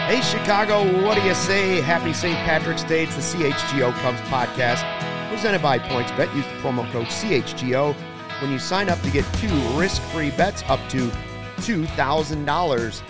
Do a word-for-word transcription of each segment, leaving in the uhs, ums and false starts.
Hey, Chicago, what do you say? Happy Saint Patrick's Day. It's the C H G O Cubs podcast presented by PointsBet. Use the promo code C H G O when you sign up to get two risk-free bets up to two thousand dollars.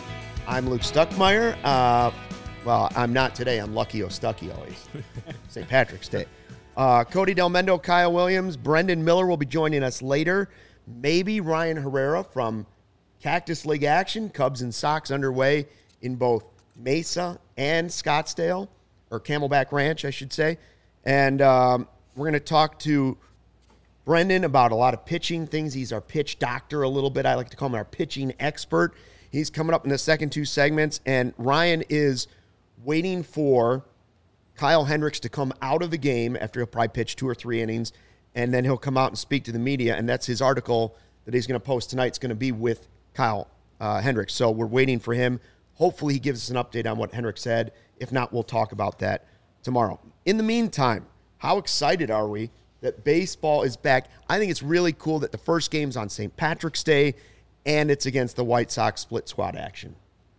I'm Luke Stuckmeyer. Uh, well, I'm not today. I'm Lucky O'Stucky always. Saint Patrick's Day. Uh, Cody Del Mendo, Kyle Williams, Brendan Miller will be joining us later. Maybe Ryan Herrera from Cactus League action. Cubs and Sox underway in both Mesa and Scottsdale, or Camelback Ranch, I should say. And um, we're going to talk to Brendan about a lot of pitching things. He's our pitch doctor a little bit. I like to call him our pitching expert. He's coming up in the second two segments, and Ryan is waiting for Kyle Hendricks to come out of the game after he'll probably pitch two or three innings, and then he'll come out and speak to the media, and that's his article that he's going to post tonight. It's going to be with Kyle uh, Hendricks. So we're waiting for him. Hopefully he gives us an update on what Hendricks said. If not, we'll talk about that tomorrow. In the meantime, how excited are we that baseball is back? I think it's really cool that the first game's on Saint Patrick's Day, and it's against the White Sox split squad action.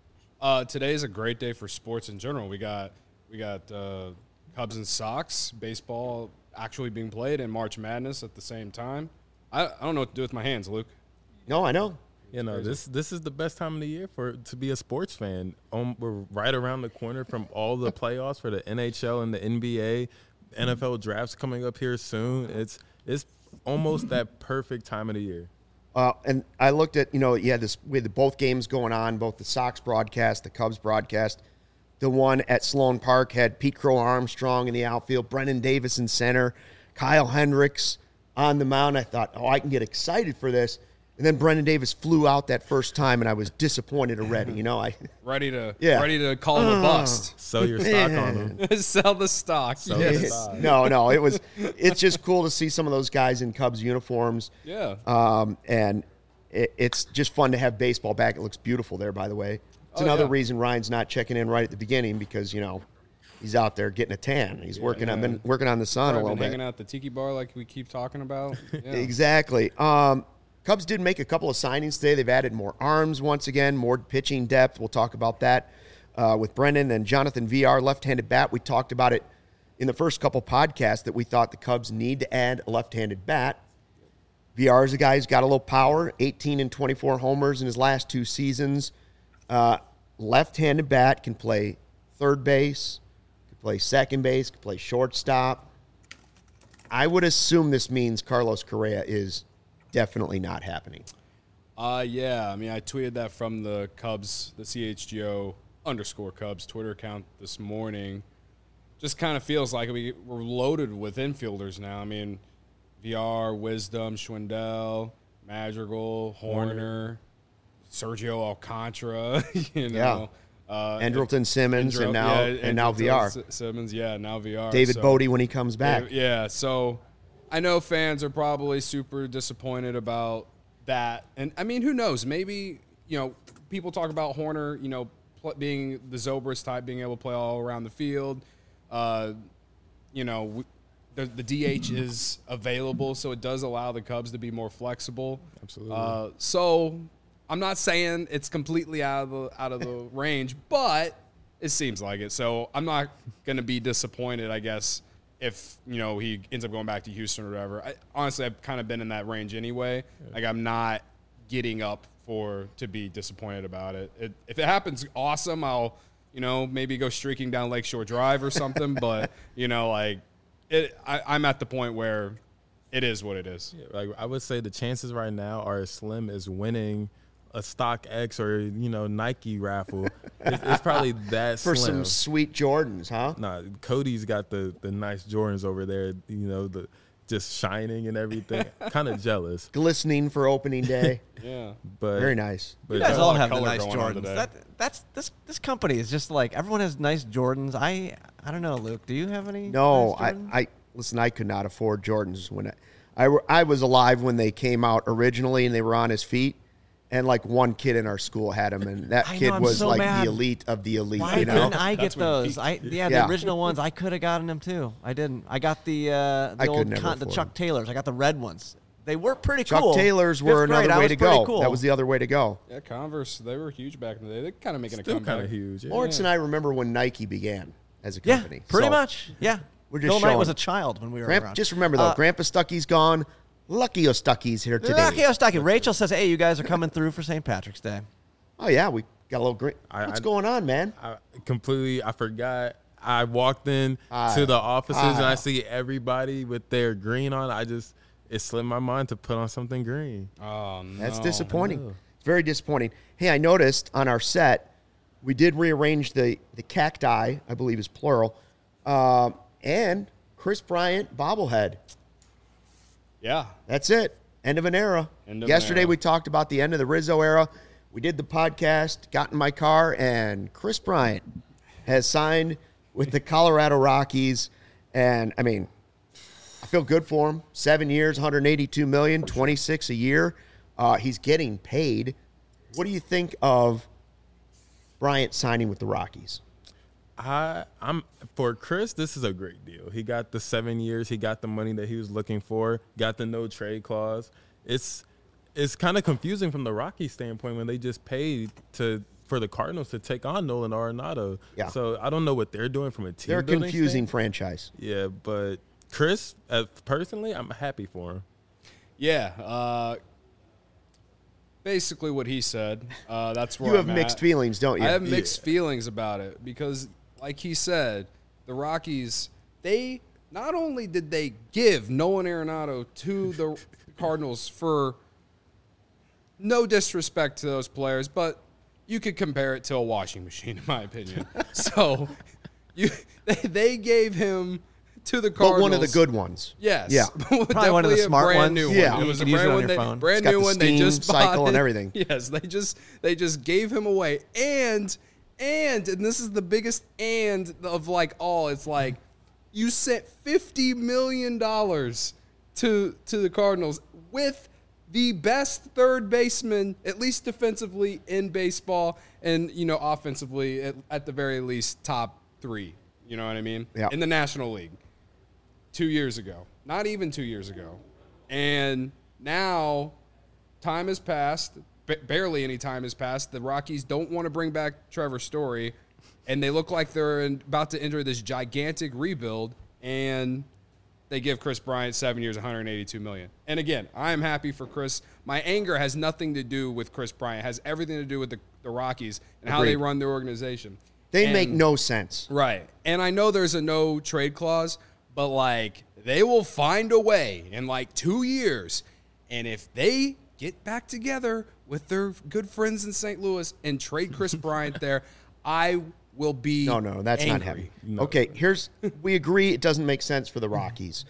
Uh, today is a great day for sports in general. We got we got uh, Cubs and Sox, baseball actually being played, and March Madness at the same time. I, I don't know what to do with my hands, Luke. No, I know. You know, this this is the best time of the year for to be a sports fan. Um, we're right around the corner from all the playoffs for the N H L and the N B A. N F L drafts coming up here soon. It's it's almost that perfect time of the year. Uh, and I looked at, you know, you had this with both games going on, both the Sox broadcast, the Cubs broadcast. The one at Sloan Park had Pete Crow Armstrong in the outfield, Brennan Davis in center, Kyle Hendricks on the mound. I thought, oh, I can get excited for this. And then Brendan Davis flew out that first time, and I was disappointed already. You know, I ready to yeah. ready to call him a bust. Sell your stock on them. Sell the stock. Sell yes. the stock. No, no, it was. It's just cool to see some of those guys in Cubs uniforms. Yeah. Um, and it, it's just fun to have baseball back. It looks beautiful there, by the way. It's oh, another yeah. reason Ryan's not checking in right at the beginning because you know he's out there getting a tan. He's yeah, working. Yeah. I've been working on the sun I've a little been bit. hanging out at the Tiki Bar like we keep talking about. Yeah. Exactly. Um, Cubs did make a couple of signings today. They've added more arms once again, more pitching depth. We'll talk about that uh, with Brendan and Jonathan V R, left-handed bat. We talked about it in the first couple podcasts that we thought the Cubs need to add a left-handed bat. V R is a guy who's got a little power, eighteen and twenty-four homers in his last two seasons. Uh, left-handed bat, can play third base, can play second base, can play shortstop. I would assume this means Carlos Correa is definitely not happening. Uh, yeah, I mean, I tweeted that from the Cubs, the C H G O underscore Cubs Twitter account this morning. Just kind of feels like we, we're loaded with infielders now. I mean, V R, Wisdom, Schwindel, Madrigal, Horner, Sergio Alcantara, you know. Yeah. Uh, Andrelton Simmons Andrel- and now yeah, and now V R. S- Simmons, yeah, now V R. David so. Bodie when he comes back. Yeah, so I know fans are probably super disappointed about that. And, I mean, who knows? Maybe, you know, people talk about Horner, you know, pl- being the Zobrist type, being able to play all around the field. Uh, you know, w- the, the D H is available, so it does allow the Cubs to be more flexible. Absolutely. Uh, so I'm not saying it's completely out of the out of the range, but it seems like it. So I'm not going to be disappointed, I guess, if, you know, he ends up going back to Houston or whatever. I, honestly, I've kind of been in that range anyway. Yeah. Like, I'm not getting up for to be disappointed about it. it. If it happens, awesome. I'll, you know, maybe go streaking down Lakeshore Drive or something. But, you know, like, it, I, I'm at the point where it is what it is. Yeah, like I would say the chances right now are as slim as winning a StockX or, you know, Nike raffle. It's, it's probably that For slim. some sweet Jordans, huh? Nah, Cody's got the, the nice Jordans over there, you know, the just shining and everything. Kind of jealous. Glistening for opening day. Yeah. But Very nice. But You guys a all lot of have the color nice going on Jordans. today. That, that's this this company is just like everyone has nice Jordans. I I don't know, Luke. Do you have any? No, nice I, Jordans? I listen. I could not afford Jordans when I, I, were- I was alive when they came out originally, and they were on his feet. And like one kid in our school had them, and that I know, kid I'm was so like mad. the elite of the elite. Why you know, didn't I get That's when those? he- I yeah, Yeah. the original ones. I could have gotten them too. I didn't. I got the uh, I the could old never con- the afford Chuck them. Taylors. I got the red ones. They were pretty Chuck cool. Taylors were Fifth grade, another I way was to pretty go. Cool. That was the other way to go. Yeah, Converse, they were huge back in the day. They're kind of making Still a comeback. kind of huge. Yeah. Lawrence and I remember when Nike began as a Yeah, company. pretty So, much. Yeah. We're just Phil Knight showing. was a child when we were Grandpa, around. just remember, though, Uh, Grandpa Stucky's gone. Lucky Ostucky's here today. Lucky Ostaki. Rachel says, hey, you guys are coming through for Saint Patrick's Day. Oh, yeah, we got a little great. I- What's I- going on, man? I completely, I forgot. I walked in Ah, to the offices and ah. I see everybody with their green on. I just, it slipped my mind to put on something green. Oh, no. That's disappointing. It's very disappointing. Hey, I noticed on our set, we did rearrange the, the cacti, I believe is plural, um, and Chris Bryant bobblehead. Yeah. That's it. End of an era. End of an Yesterday era. we talked about the end of the Rizzo era. We did the podcast, got in my car, and Chris Bryant has signed with the Colorado Rockies. And, I mean, I feel good for him. Seven years, one hundred eighty-two million dollars, twenty-six a year. Uh, he's getting paid. What do you think of Bryant signing with the Rockies? I, I'm for Chris. This is a great deal. He got the seven years. He got the money that he was looking for. Got the no trade clause. It's it's kind of confusing from the Rockies standpoint when they just paid to for the Cardinals to take on Nolan Arenado. Yeah. So I don't know what they're doing from a team. They're a building confusing stand- franchise. Yeah, but Chris, uh, personally, I'm happy for him. Yeah. Uh, basically what he said. Uh, that's where You have I'm mixed at. feelings, don't you? I have mixed feelings about it because, like he said, the Rockies, they not only did they give Nolan Arenado to the Cardinals for no disrespect to those players, but you could compare it to a washing machine, in my opinion. So you they, they gave him to the Cardinals. But one of the good ones. Yes. Yeah. Probably one of the a smart brand ones. new Yeah. one. It You was a can use it brand on one. your They, phone. brand It's got new the one. They steam just cycle bought and it. everything. Yes, they just they just gave him away. And and and this is the biggest and of like all. It's like you sent fifty million dollars to to the Cardinals with the best third baseman, at least defensively in baseball, and you know offensively at, at the very least top three. You know what I mean? Yeah. In the National League. Two years ago, not even two years ago, and now time has passed. B- barely any time has passed. The Rockies don't want to bring back Trevor Story, and they look like they're in, about to enter this gigantic rebuild. And they give Chris Bryant seven years, one hundred eighty-two million dollars. And again, I am happy for Chris. My anger has nothing to do with Chris Bryant. It has everything to do with the, the Rockies and how they Agreed. run their organization. They And- make no sense. Right. And I know there's a no trade clause, but like they will find a way in like two years. And if they get back together with their good friends in Saint Louis and trade Chris Bryant there, I will be No, no, that's not angry. happening. Okay, here's we agree it doesn't make sense for the Rockies.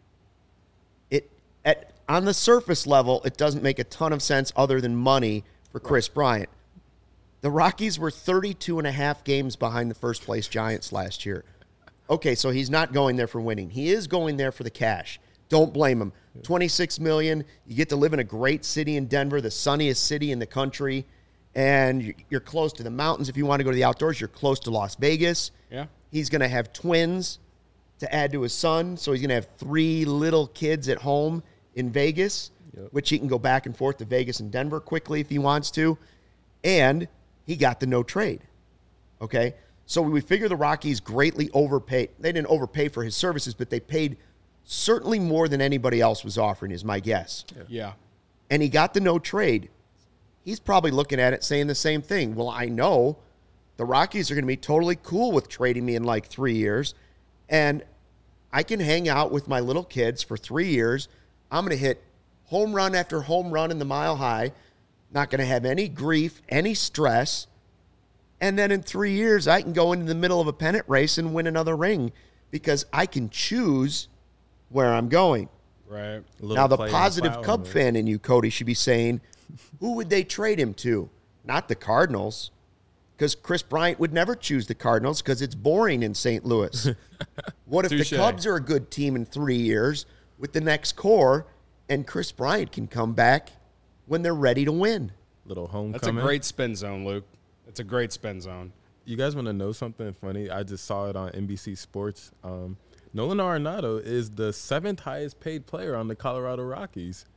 It at on the surface level, it doesn't make a ton of sense other than money for Chris Bryant. The Rockies were thirty-two and a half games behind the first place Giants last year. Okay, so he's not going there for winning. He is going there for the cash. Don't blame him. twenty-six million dollars. You get to live in a great city in Denver, the sunniest city in the country, and you- you're close to the mountains. If you want to go to the outdoors, you're close to Las Vegas. Yeah. He's going to have twins to add to his son, so he's going to have three little kids at home in Vegas, which he can go back and forth to Vegas and Denver quickly if he wants to. And he got the no trade. Okay? So we figure the Rockies greatly overpaid. They didn't overpay for his services, but they paid certainly more than anybody else was offering, is my guess. Yeah. And he got the no trade. He's probably looking at it saying the same thing. Well, I know the Rockies are going to be totally cool with trading me in like three years, and I can hang out with my little kids for three years. I'm going to hit home run after home run in the Mile High, not going to have any grief, any stress. And then in three years, I can go into the middle of a pennant race and win another ring because I can choose where I'm going. Right. A little Now, the play in positive cloud Cub on it. fan in you, Cody, should be saying, who would they trade him to? Not the Cardinals, because Chris Bryant would never choose the Cardinals because it's boring in Saint Louis. What if Touche. the Cubs are a good team in three years with the next core, and Chris Bryant can come back when they're ready to win? Little homecoming. That's a great spin zone, Luke. It's a great spin zone. You guys want to know something funny? I just saw it on N B C Sports. Um, Nolan Arenado is the seventh highest paid player on the Colorado Rockies.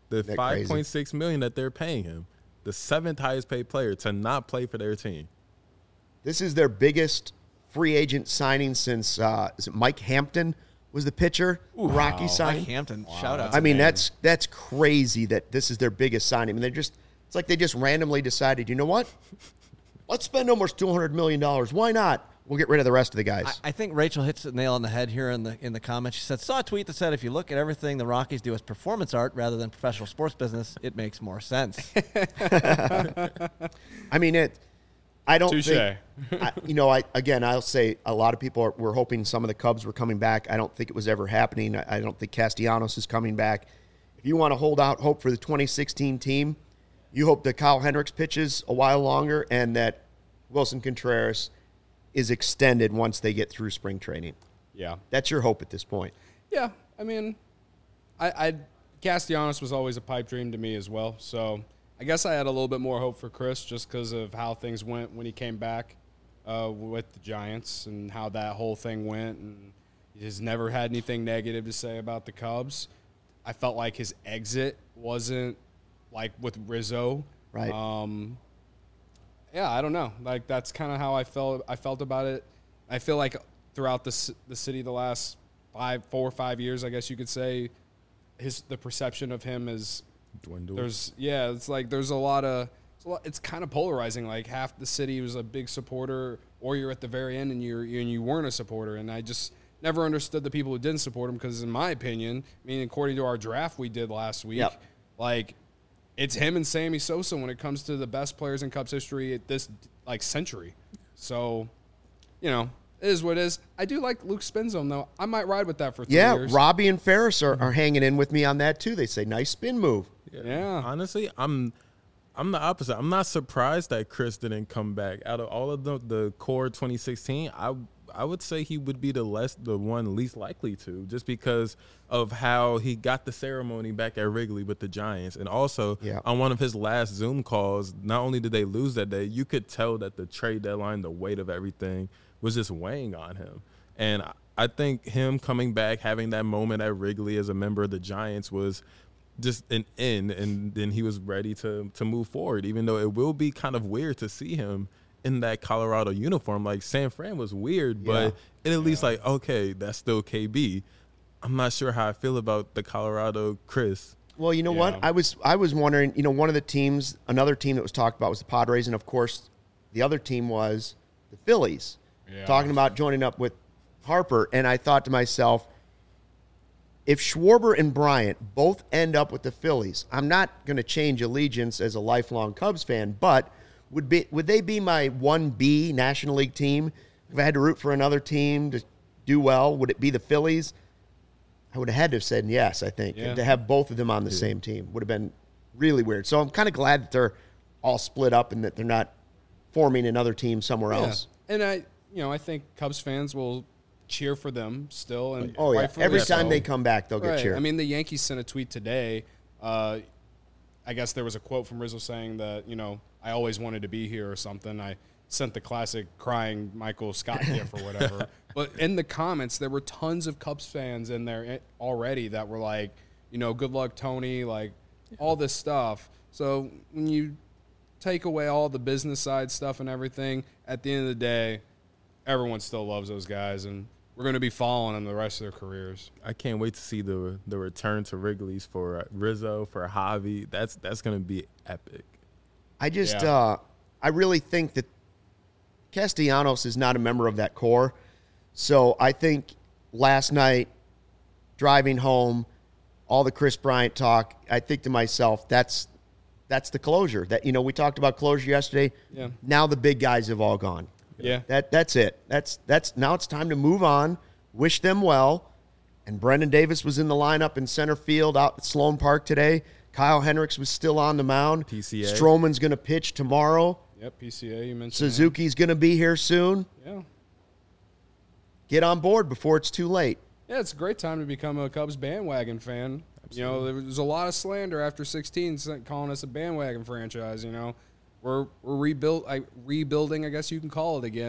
The Isn't that five point six crazy? million that they're paying him, the seventh highest paid player to not play for their team. This is their biggest free agent signing since uh, is it Mike Hampton was the pitcher Rocky Mike signed. Hampton, shout out. I mean, amazing. that's that's crazy that this is their biggest signing. I mean, they're just it's like they just randomly decided, you know what? Let's spend almost two hundred million dollars. Why not? We'll get rid of the rest of the guys. I, I think Rachel hits the nail on the head here in the in the comments. She said, saw a tweet that said, if you look at everything the Rockies do as performance art rather than professional sports business, it makes more sense. I mean, it. I don't Touche. think. I, you know, I again, I'll say a lot of people are, were hoping some of the Cubs were coming back. I don't think it was ever happening. I, I don't think Castellanos is coming back. If you want to hold out hope for the twenty sixteen team, you hope that Kyle Hendricks pitches a while longer and that Wilson Contreras is extended once they get through spring training. Yeah. That's your hope at this point. Yeah, I mean, I, I Castellanos was always a pipe dream to me as well. So I guess I had a little bit more hope for Chris just because of how things went when he came back uh, with the Giants and how that whole thing went. And he has never had anything negative to say about the Cubs. I felt like his exit wasn't like with Rizzo. Right. Um, yeah, I don't know. Like that's kind of how I felt. I felt about it. I feel like throughout the c- the city the last five, four or five years, I guess you could say, his the perception of him is Dwindled. there's yeah, it's like there's a lot of it's, a lot, it's kind of polarizing. Like half the city was a big supporter, or you're at the very end and you're and you weren't a supporter. And I just never understood the people who didn't support him because, in my opinion, I mean, according to our draft we did last week, Yep. like. It's him and Sammy Sosa when it comes to the best players in Cubs history at this like century. So, you know, it is what it is. I do like Luke Spinzone though. I might ride with that for three Yeah, years. Robbie and Ferris are, are hanging in with me on that too. They say nice spin move. Yeah. Honestly, I'm I'm the opposite. I'm not surprised that Chris didn't come back. Out of all of the the core twenty sixteen, I I would say he would be the less the one least likely to, just because of how he got the ceremony back at Wrigley with the Giants. And also Yeah. on one of his last Zoom calls, not only did they lose that day, you could tell that the trade deadline, the weight of everything was just weighing on him. And I- I think him coming back, having that moment at Wrigley as a member of the Giants was just an end, and then he was ready to to move forward, even though it will be kind of weird to see him in that Colorado uniform. Like San Fran was weird, but it at least like, okay, that's still K B. I'm not sure how I feel about the Colorado Chris. Well, you know Yeah. what? I was I was wondering, you know, one of the teams, another team that was talked about was the Padres, and of course, the other team was the Phillies. Yeah. Talking about joining up with Harper, and I thought to myself, if Schwarber and Bryant both end up with the Phillies, I'm not going to change allegiance as a lifelong Cubs fan, but would be would they be my one B National League team? If I had to root for another team to do well, would it be the Phillies? I would have had to have said yes, I think. Yeah. And to have both of them on the same team would have been really weird. So I'm kind of glad that they're all split up and that they're not forming another team somewhere Yeah. else. And I, you know, I think Cubs fans will cheer for them still. And Oh, yeah. rightfully Every so. time they come back, they'll get Right. cheered. I mean, the Yankees sent a tweet today. Uh, I guess there was a quote from Rizzo saying that, you know, I always wanted to be here or something. I sent the classic crying Michael Scott gif or whatever. But in the comments, there were tons of Cubs fans in there already that were like, you know, good luck, Tony, like all this stuff. So when you take away all the business side stuff and everything, at the end of the day, everyone still loves those guys. And we're going to be following them the rest of their careers. I can't wait to see the the return to Wrigley's for uh, Rizzo, for Javi. That's that's going to be epic. I just, Yeah. uh, I really think that Castellanos is not a member of that core. So I think last night, driving home, all the Chris Bryant talk, I think to myself, that's that's the closure. That, you know, we talked about closure yesterday. Yeah. Now the big guys have all gone. Yeah. That that's it. That's that's now it's time to move on. Wish them well. And Brendan Davis was in the lineup in center field out at Sloan Park today. Kyle Hendricks was still on the mound. P C A. Stroman's going to pitch tomorrow. Yep, P C A, you mentioned Suzuki's going to be here soon. that. Yeah. Get on board before it's too late. Yeah, it's a great time to become a Cubs bandwagon fan. You know, there was a lot of slander after sixteen calling us a bandwagon franchise, you know. We're we're rebuilt I, rebuilding, I guess you can call it again.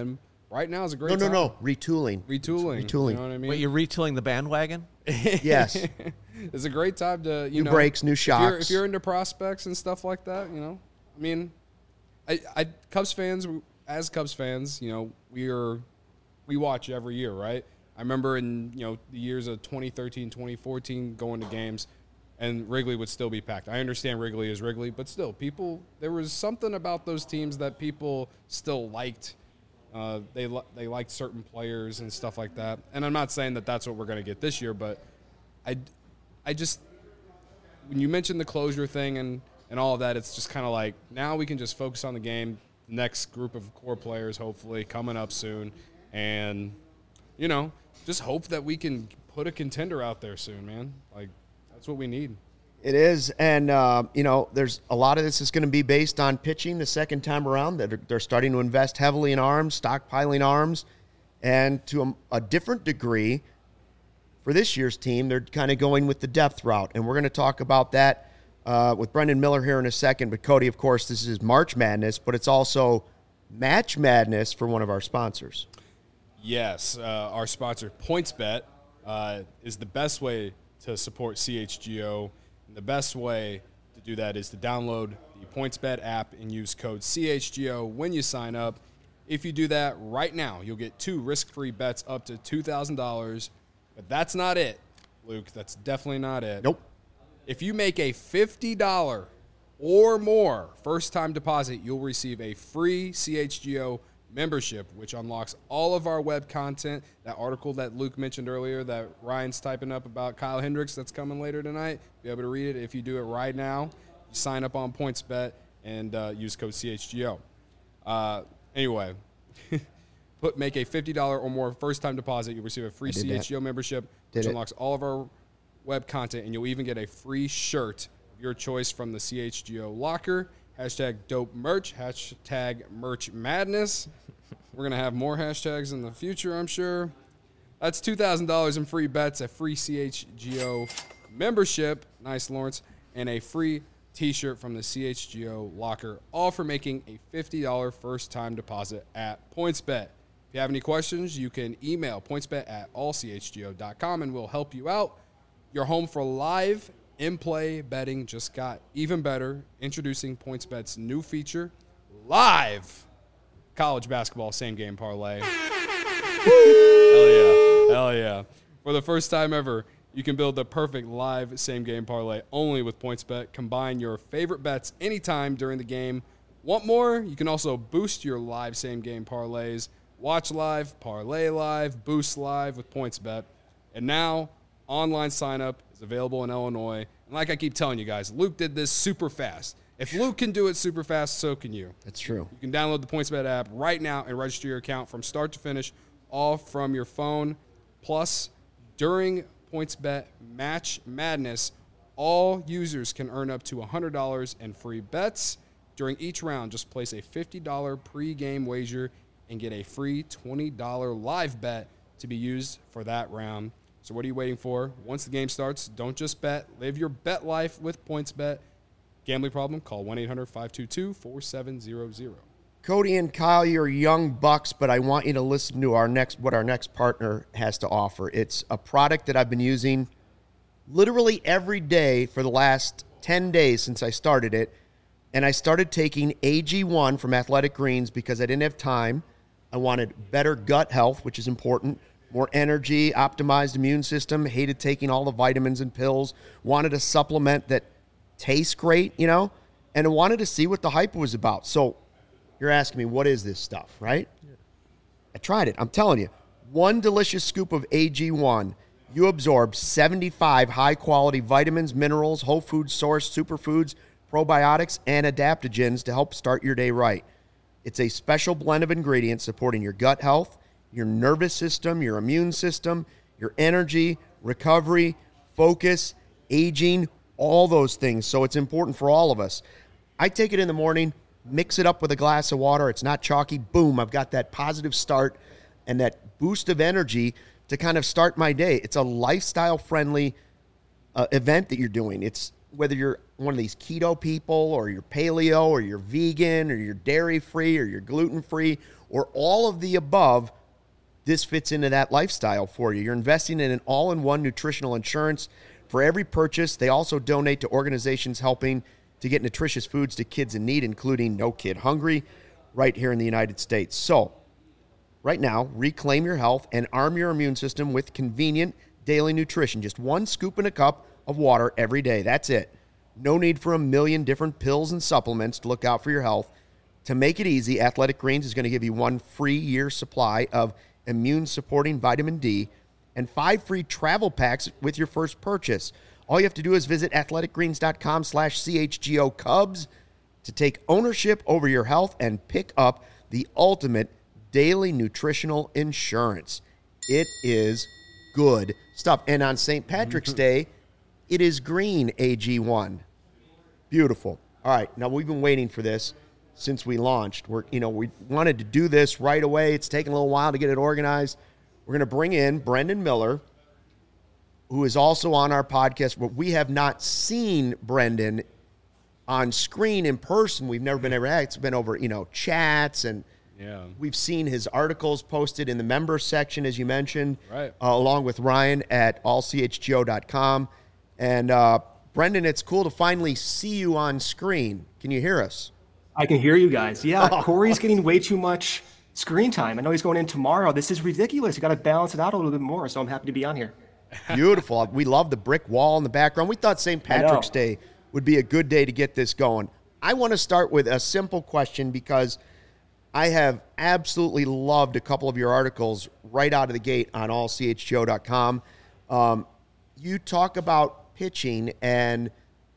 right now is a great No, no, time. no. Retooling. Retooling. Retooling. You know what I mean? Wait, you're retooling the bandwagon? Yes. It's a great time to, you New know. brakes, new if you're, shocks. if you're into prospects and stuff like that, you know. I mean, I, I Cubs fans, as Cubs fans, you know, we are, we watch every year, right? I remember in, you know, the years of twenty thirteen, twenty fourteen going to games, and Wrigley would still be packed. I understand Wrigley is Wrigley, but still, people, there was something about those teams that people still liked. Uh, they li- they liked certain players and stuff like that. And I'm not saying that that's what we're going to get this year, but I, I just, when you mentioned the closure thing and, and all of that, it's just kind of like, now we can just focus on the game. Next group of core players, hopefully, coming up soon. And, you know, just hope that we can put a contender out there soon, man. Like, that's what we need. It is, and uh, you know, there's a lot of this is going to be based on pitching the second time around. They're, they're starting to invest heavily in arms, stockpiling arms, and to a, a different degree, for this year's team, they're kind of going with the depth route, and we're going to talk about that uh, with Brendan Miller here in a second. But Cody, of course, this is March Madness, but it's also Match Madness for one of our sponsors. Yes, uh, our sponsor, PointsBet, uh, is the best way to support C H G O. And the best way to do that is to download the PointsBet app and use code C H G O when you sign up. If you do that right now, you'll get two risk-free bets up to two thousand dollars. But that's not it, Luke. That's definitely not it. Nope. If you make a fifty dollars or more first-time deposit, you'll receive a free C H G O membership, which unlocks all of our web content. That article that Luke mentioned earlier that Ryan's typing up about Kyle Hendricks that's coming later tonight, be able to read it if you do it right now. You sign up on PointsBet and uh, use code C H G O. Uh, anyway, put make a fifty dollars or more first-time deposit. You'll receive a free C H G O membership, Did which it. unlocks all of our web content, and you'll even get a free shirt of your choice from the C H G O locker. Hashtag dope merch, hashtag merch madness. We're going to have more hashtags in the future, I'm sure. That's two thousand dollars in free bets, a free C H G O membership, nice Lawrence, and a free t-shirt from the C H G O locker, all for making a fifty dollars first-time deposit at PointsBet. If you have any questions, you can email pointsbet at all c h g o dot com and we'll help you out. Your home for live in-play betting just got even better. Introducing PointsBet's new feature, live college basketball same-game parlay. Hell yeah. Hell yeah. For the first time ever, you can build the perfect live same-game parlay only with PointsBet. Combine your favorite bets anytime during the game. Want more? You can also boost your live same-game parlays. Watch live, parlay live, boost live with PointsBet. And now, online sign-up is available in Illinois. And like I keep telling you guys, Luke did this super fast. If Luke can do it super fast, so can you. That's true. You can download the PointsBet app right now and register your account from start to finish, all from your phone. Plus, during PointsBet Match Madness, all users can earn up to one hundred dollars in free bets. During each round, just place a fifty dollars pre-game wager and get a free twenty dollars live bet to be used for that round. So what are you waiting for? Once the game starts, don't just bet. Live your bet life with PointsBet. Gambling problem? Call one eight hundred five two two four seven zero zero. Cody and Kyle, you're young bucks, but I want you to listen to our next what our next partner has to offer. It's a product that I've been using literally every day for the last ten days since I started it. And I started taking A G one from Athletic Greens because I didn't have time. I wanted better gut health, which is important, more energy, optimized immune system, hated taking all the vitamins and pills, wanted a supplement that tastes great, you know, and I wanted to see what the hype was about. So you're asking me, what is this stuff, right? Yeah. I tried it. I'm telling you, one delicious scoop of A G one, you absorb seventy-five high-quality vitamins, minerals, whole food source, superfoods, probiotics, and adaptogens to help start your day right. It's a special blend of ingredients supporting your gut health, your nervous system, your immune system, your energy, recovery, focus, aging, all those things. So it's important for all of us. I take it in the morning, mix it up with a glass of water. It's not chalky. Boom, I've got that positive start and that boost of energy to kind of start my day. It's a lifestyle-friendly uh, event that you're doing. It's whether you're one of these keto people or you're paleo or you're vegan or you're dairy free or you're gluten free or all of the above, this fits into that lifestyle for you. You're investing in an all-in-one nutritional insurance for every purchase. They also donate to organizations helping to get nutritious foods to kids in need, including No Kid Hungry, right here in the United States. So, right now, reclaim your health and arm your immune system with convenient daily nutrition. Just one scoop in a cup of water every day. That's it. No need for a million different pills and supplements to look out for your health. To make it easy, Athletic Greens is going to give you one free year supply of immune-supporting vitamin D and five free travel packs with your first purchase. All you have to do is visit athleticgreens.com slash CHGO Cubs to take ownership over your health and pick up the ultimate daily nutritional insurance. It is good stuff. And on Saint Patrick's Day, it is green A G one. Beautiful. All right, now we've been waiting for this since we launched. We're, you know, we wanted to do this right away. It's taken a little while to get it organized. We're going to bring in Brendan Miller, who is also on our podcast, but we have not seen Brendan on screen in person. We've never been ever at. It's been over, you know, chats, and yeah, we've seen his articles posted in the member section, as you mentioned, right, uh, along with Ryan at all c h g o dot com. And uh, Brendan, it's cool to finally see you on screen. Can you hear us? I can hear you guys. Yeah, Corey's getting way too much screen time. I know he's going in tomorrow. This is ridiculous. You got to balance it out a little bit more, so I'm happy to be on here. Beautiful. We love the brick wall in the background. We thought Saint Patrick's Day would be a good day to get this going. I want to start with a simple question because I have absolutely loved a couple of your articles right out of the gate on all c h g o dot com. Um, you talk about pitching and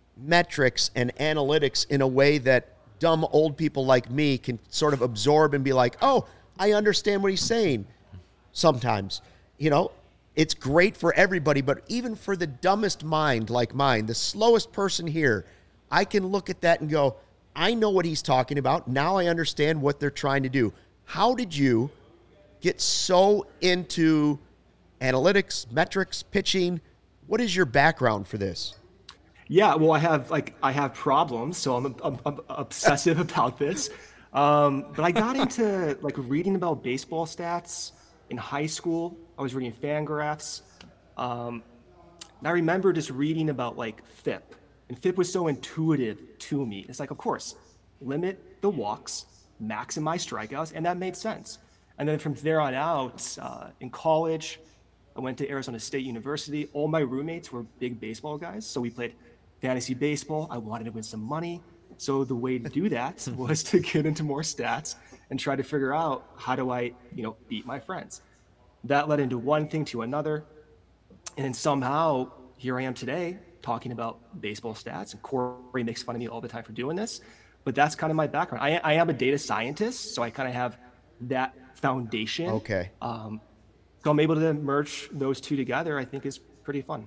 metrics and analytics in a way that dumb old people like me can sort of absorb and be like, oh, I understand what he's saying sometimes. You know, it's great for everybody, but even for the dumbest mind like mine, the slowest person here, I can look at that and go, I know what he's talking about. Now I understand what they're trying to do. How did you get so into analytics, metrics, pitching? What is your background for this? Yeah, well, I have like I have problems, so I'm, I'm, I'm obsessive about this. Um, but I got into like reading about baseball stats in high school. I was reading Fangraphs. Um, and I remember just reading about like F I P, and F I P was so intuitive to me. It's like, of course, limit the walks, maximize strikeouts, and that made sense. And then from there on out, uh, in college, I went to Arizona State University. All my roommates were big baseball guys, so we played fantasy baseball. I wanted to win some money. So the way to do that was to get into more stats and try to figure out how do I, you know, beat my friends. That led into one thing to another. And then somehow here I am today talking about baseball stats, and Corey makes fun of me all the time for doing this, but that's kind of my background. I, I am a data scientist, so I kind of have that foundation. Okay. Um, so I'm able to merge those two together. I think is pretty fun.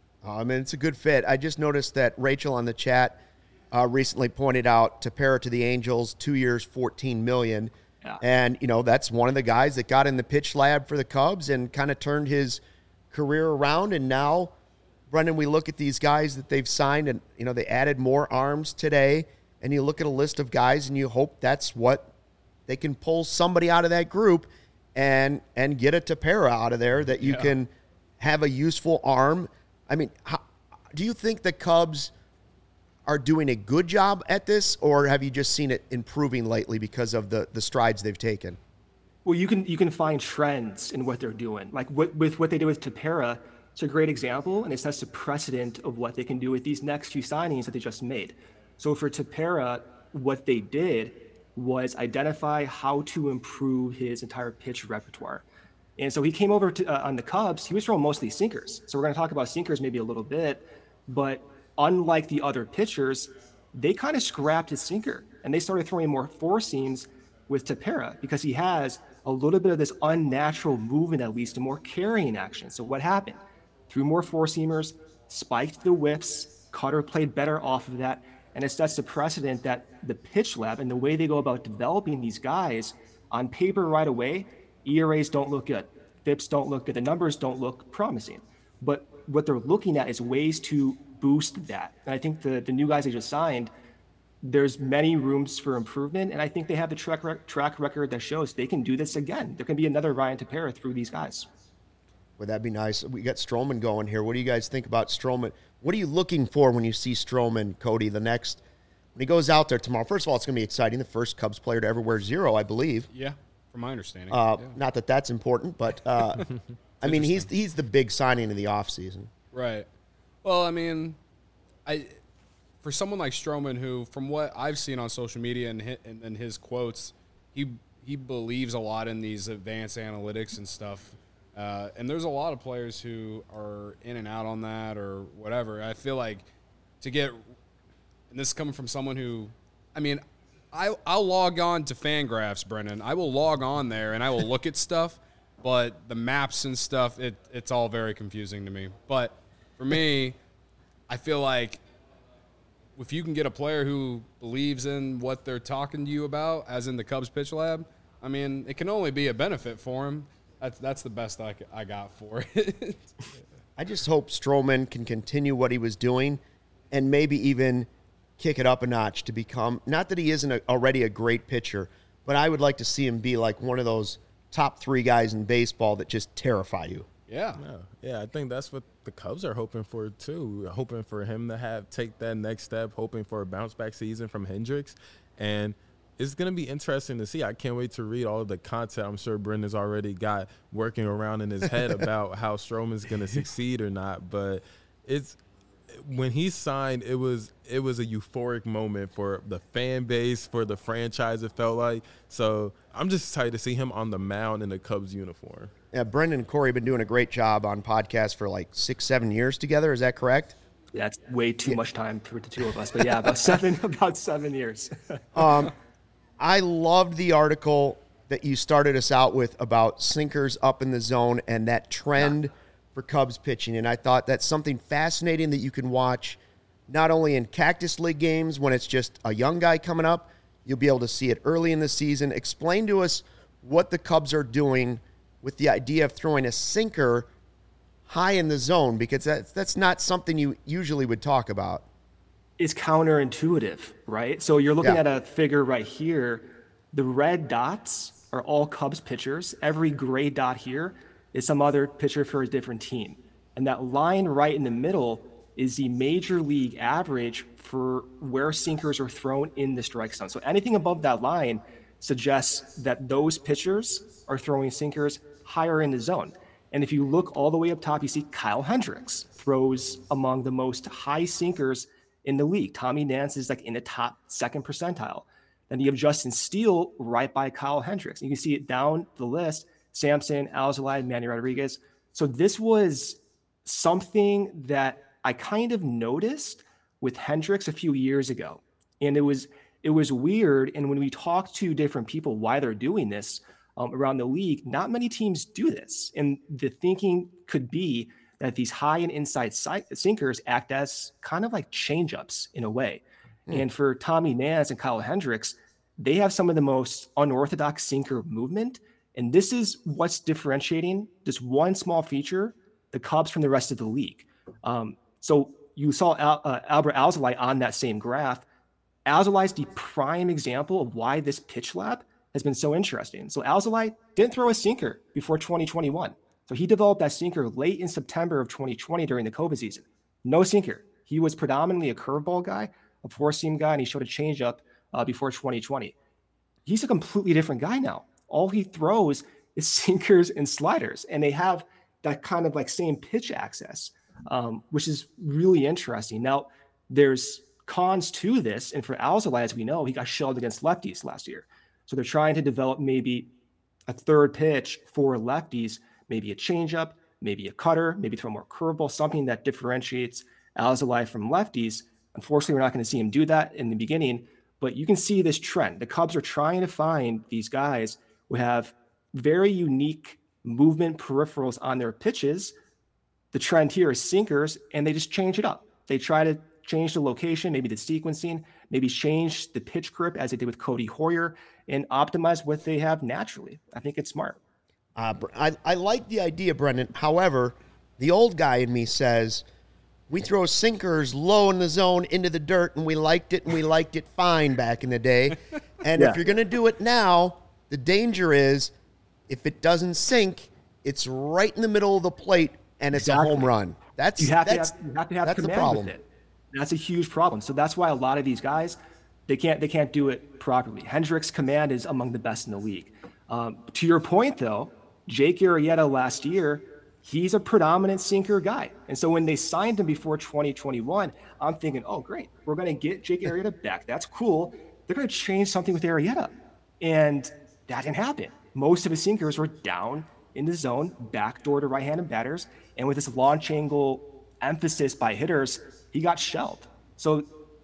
I mean, it's a good fit. I just noticed that Rachel on the chat uh, recently pointed out Tepera to the Angels, two years, fourteen million dollars. Yeah. And, you know, that's one of the guys that got in the pitch lab for the Cubs and kind of turned his career around. And now, Brendan, we look at these guys that they've signed and, you know, they added more arms today. And you look at a list of guys and you hope that's what they can pull somebody out of that group and and get a Tepera out of there that you yeah. can have a useful arm. I mean, how, do you think the Cubs are doing a good job at this, or have you just seen it improving lately because of the, the strides they've taken? Well, you can you can find trends in what they're doing. Like what, with what they did with Tepera, it's a great example, and it sets a precedent of what they can do with these next few signings that they just made. So for Tepera, what they did was identify how to improve his entire pitch repertoire. And so he came over to, uh, on the Cubs, he was throwing mostly sinkers. So we're going to talk about sinkers maybe a little bit, but unlike the other pitchers, they kind of scrapped his sinker and they started throwing more four seams with Tepera because he has a little bit of this unnatural movement that leads to more carrying action. So what happened? Threw more four seamers, spiked the whiffs, Cutter played better off of that, and it sets the precedent that the pitch lab and the way they go about developing these guys on paper right away, E R As don't look good. F I Ps don't look good. The numbers don't look promising. But what they're looking at is ways to boost that. And I think the, the new guys they just signed, there's many rooms for improvement. And I think they have the track, rec- track record that shows they can do this again. There can be another Ryan Tepera through these guys. Would that be nice? We got Stroman going here. What do you guys think about Stroman? What are you looking for when you see Stroman, Cody, the next, when he goes out there tomorrow? First of all, it's going to be exciting. The first Cubs player to ever wear zero, I believe. Yeah, from my understanding. Uh, yeah. Not that that's important, but, uh, I mean, he's he's the big signing of the offseason. Right. Well, I mean, I for someone like Stroman, who, from what I've seen on social media and his, and, and his quotes, he he believes a lot in these advanced analytics and stuff. Uh, and there's a lot of players who are in and out on that or whatever. I feel like to get, and this is coming from someone who, I mean, I, I'll log on to Fangraphs, Brennan. I will log on there and I will look at stuff, but the maps and stuff, it it's all very confusing to me. But for me, I feel like if you can get a player who believes in what they're talking to you about, as in the Cubs Pitch Lab, I mean, it can only be a benefit for him. That's that's the best I, I got for it. I just hope Stroman can continue what he was doing and maybe even kick it up a notch to become, not that he isn't a, already a great pitcher, but I would like to see him be like one of those top three guys in baseball that just terrify you. Yeah. Yeah, yeah, I think that's what the Cubs are hoping for too. Hoping for him to have take that next step, hoping for a bounce back season from Hendricks. And it's going to be interesting to see. I can't wait to read all of the content I'm sure Brendan's already got working around in his head about how Stroman's going to succeed or not. But it's when he signed, it was it was a euphoric moment for the fan base, for the franchise, it felt like. So I'm just excited to see him on the mound in the Cubs uniform. Yeah, Brendan and Corey have been doing a great job on podcasts for like six, seven years together. Is that correct? Yeah, that's way too yeah. much time for the two of us. But yeah, about seven about seven years. um I loved the article that you started us out with about sinkers up in the zone and that trend yeah. for Cubs pitching. And I thought that's something fascinating that you can watch not only in Cactus League games when it's just a young guy coming up, you'll be able to see it early in the season. Explain to us what the Cubs are doing with the idea of throwing a sinker high in the zone, because that's, that's not something you usually would talk about. It's counterintuitive, right? So you're looking yeah. at a figure right here. The red dots are all Cubs pitchers. Every gray dot here is some other pitcher for a different team. And that line right in the middle is the major league average for where sinkers are thrown in the strike zone. So anything above that line suggests that those pitchers are throwing sinkers higher in the zone. And if you look all the way up top, you see Kyle Hendricks throws among the most high sinkers in the league. Tommy Nance is like in the top second percentile. Then you have Justin Steele right by Kyle Hendricks. You can see it down the list: Sampson, Alzolay, Manny Rodriguez. So this was something that I kind of noticed with Hendricks a few years ago. And it was it was weird. And when we talk to different people why they're doing this um, around the league, not many teams do this. And the thinking could be that these high and inside sinkers act as kind of like changeups in a way. Mm. And for Tommy Nance and Kyle Hendricks, they have some of the most unorthodox sinker movement. And this is what's differentiating this one small feature, the Cubs, from the rest of the league. Um, so you saw Al, uh, Albert Alzolay on that same graph. Alzolay is the prime example of why this pitch lab has been so interesting. So Alzolay didn't throw a sinker before twenty twenty-one. So he developed that sinker late in September of twenty twenty during the COVID season. No sinker. He was predominantly a curveball guy, a four-seam guy, and he showed a changeup uh, before twenty twenty. He's a completely different guy now. All he throws is sinkers and sliders, and they have that kind of like same pitch access, um, which is really interesting. Now, there's cons to this, and for Alzolay, as we know, he got shelled against lefties last year. So they're trying to develop maybe a third pitch for lefties, maybe a changeup, maybe a cutter, maybe throw more curveball, something that differentiates Alzolay from lefties. Unfortunately, we're not going to see him do that in the beginning, but you can see this trend. The Cubs are trying to find these guys who have very unique movement peripherals on their pitches. The trend here is sinkers, and they just change it up. They try to change the location, maybe the sequencing, maybe change the pitch grip as they did with Cody Hoyer, and optimize what they have naturally. I think it's smart. Uh, I, I like the idea, Brendan. However, the old guy in me says, we throw sinkers low in the zone into the dirt, and we liked it, and we liked it fine back in the day. And Yeah. if you're going to do it now, the danger is if it doesn't sink, it's right in the middle of the plate, and it's Exactly. a home run. That's You have to that's, have, you have to have that's the command problem. with it. That's a huge problem. So that's why a lot of these guys, they can't they can't do it properly. Hendricks' command is among the best in the league. Um, to your point, though, Jake Arrieta last year, he's a predominant sinker guy. And so when they signed him before twenty twenty-one, I'm thinking, oh, great, we're going to get Jake Arrieta back. That's cool. They're going to change something with Arrieta. And that didn't happen. Most of his sinkers were down in the zone, backdoor to right-handed batters. And with this launch angle emphasis by hitters, he got shelled. So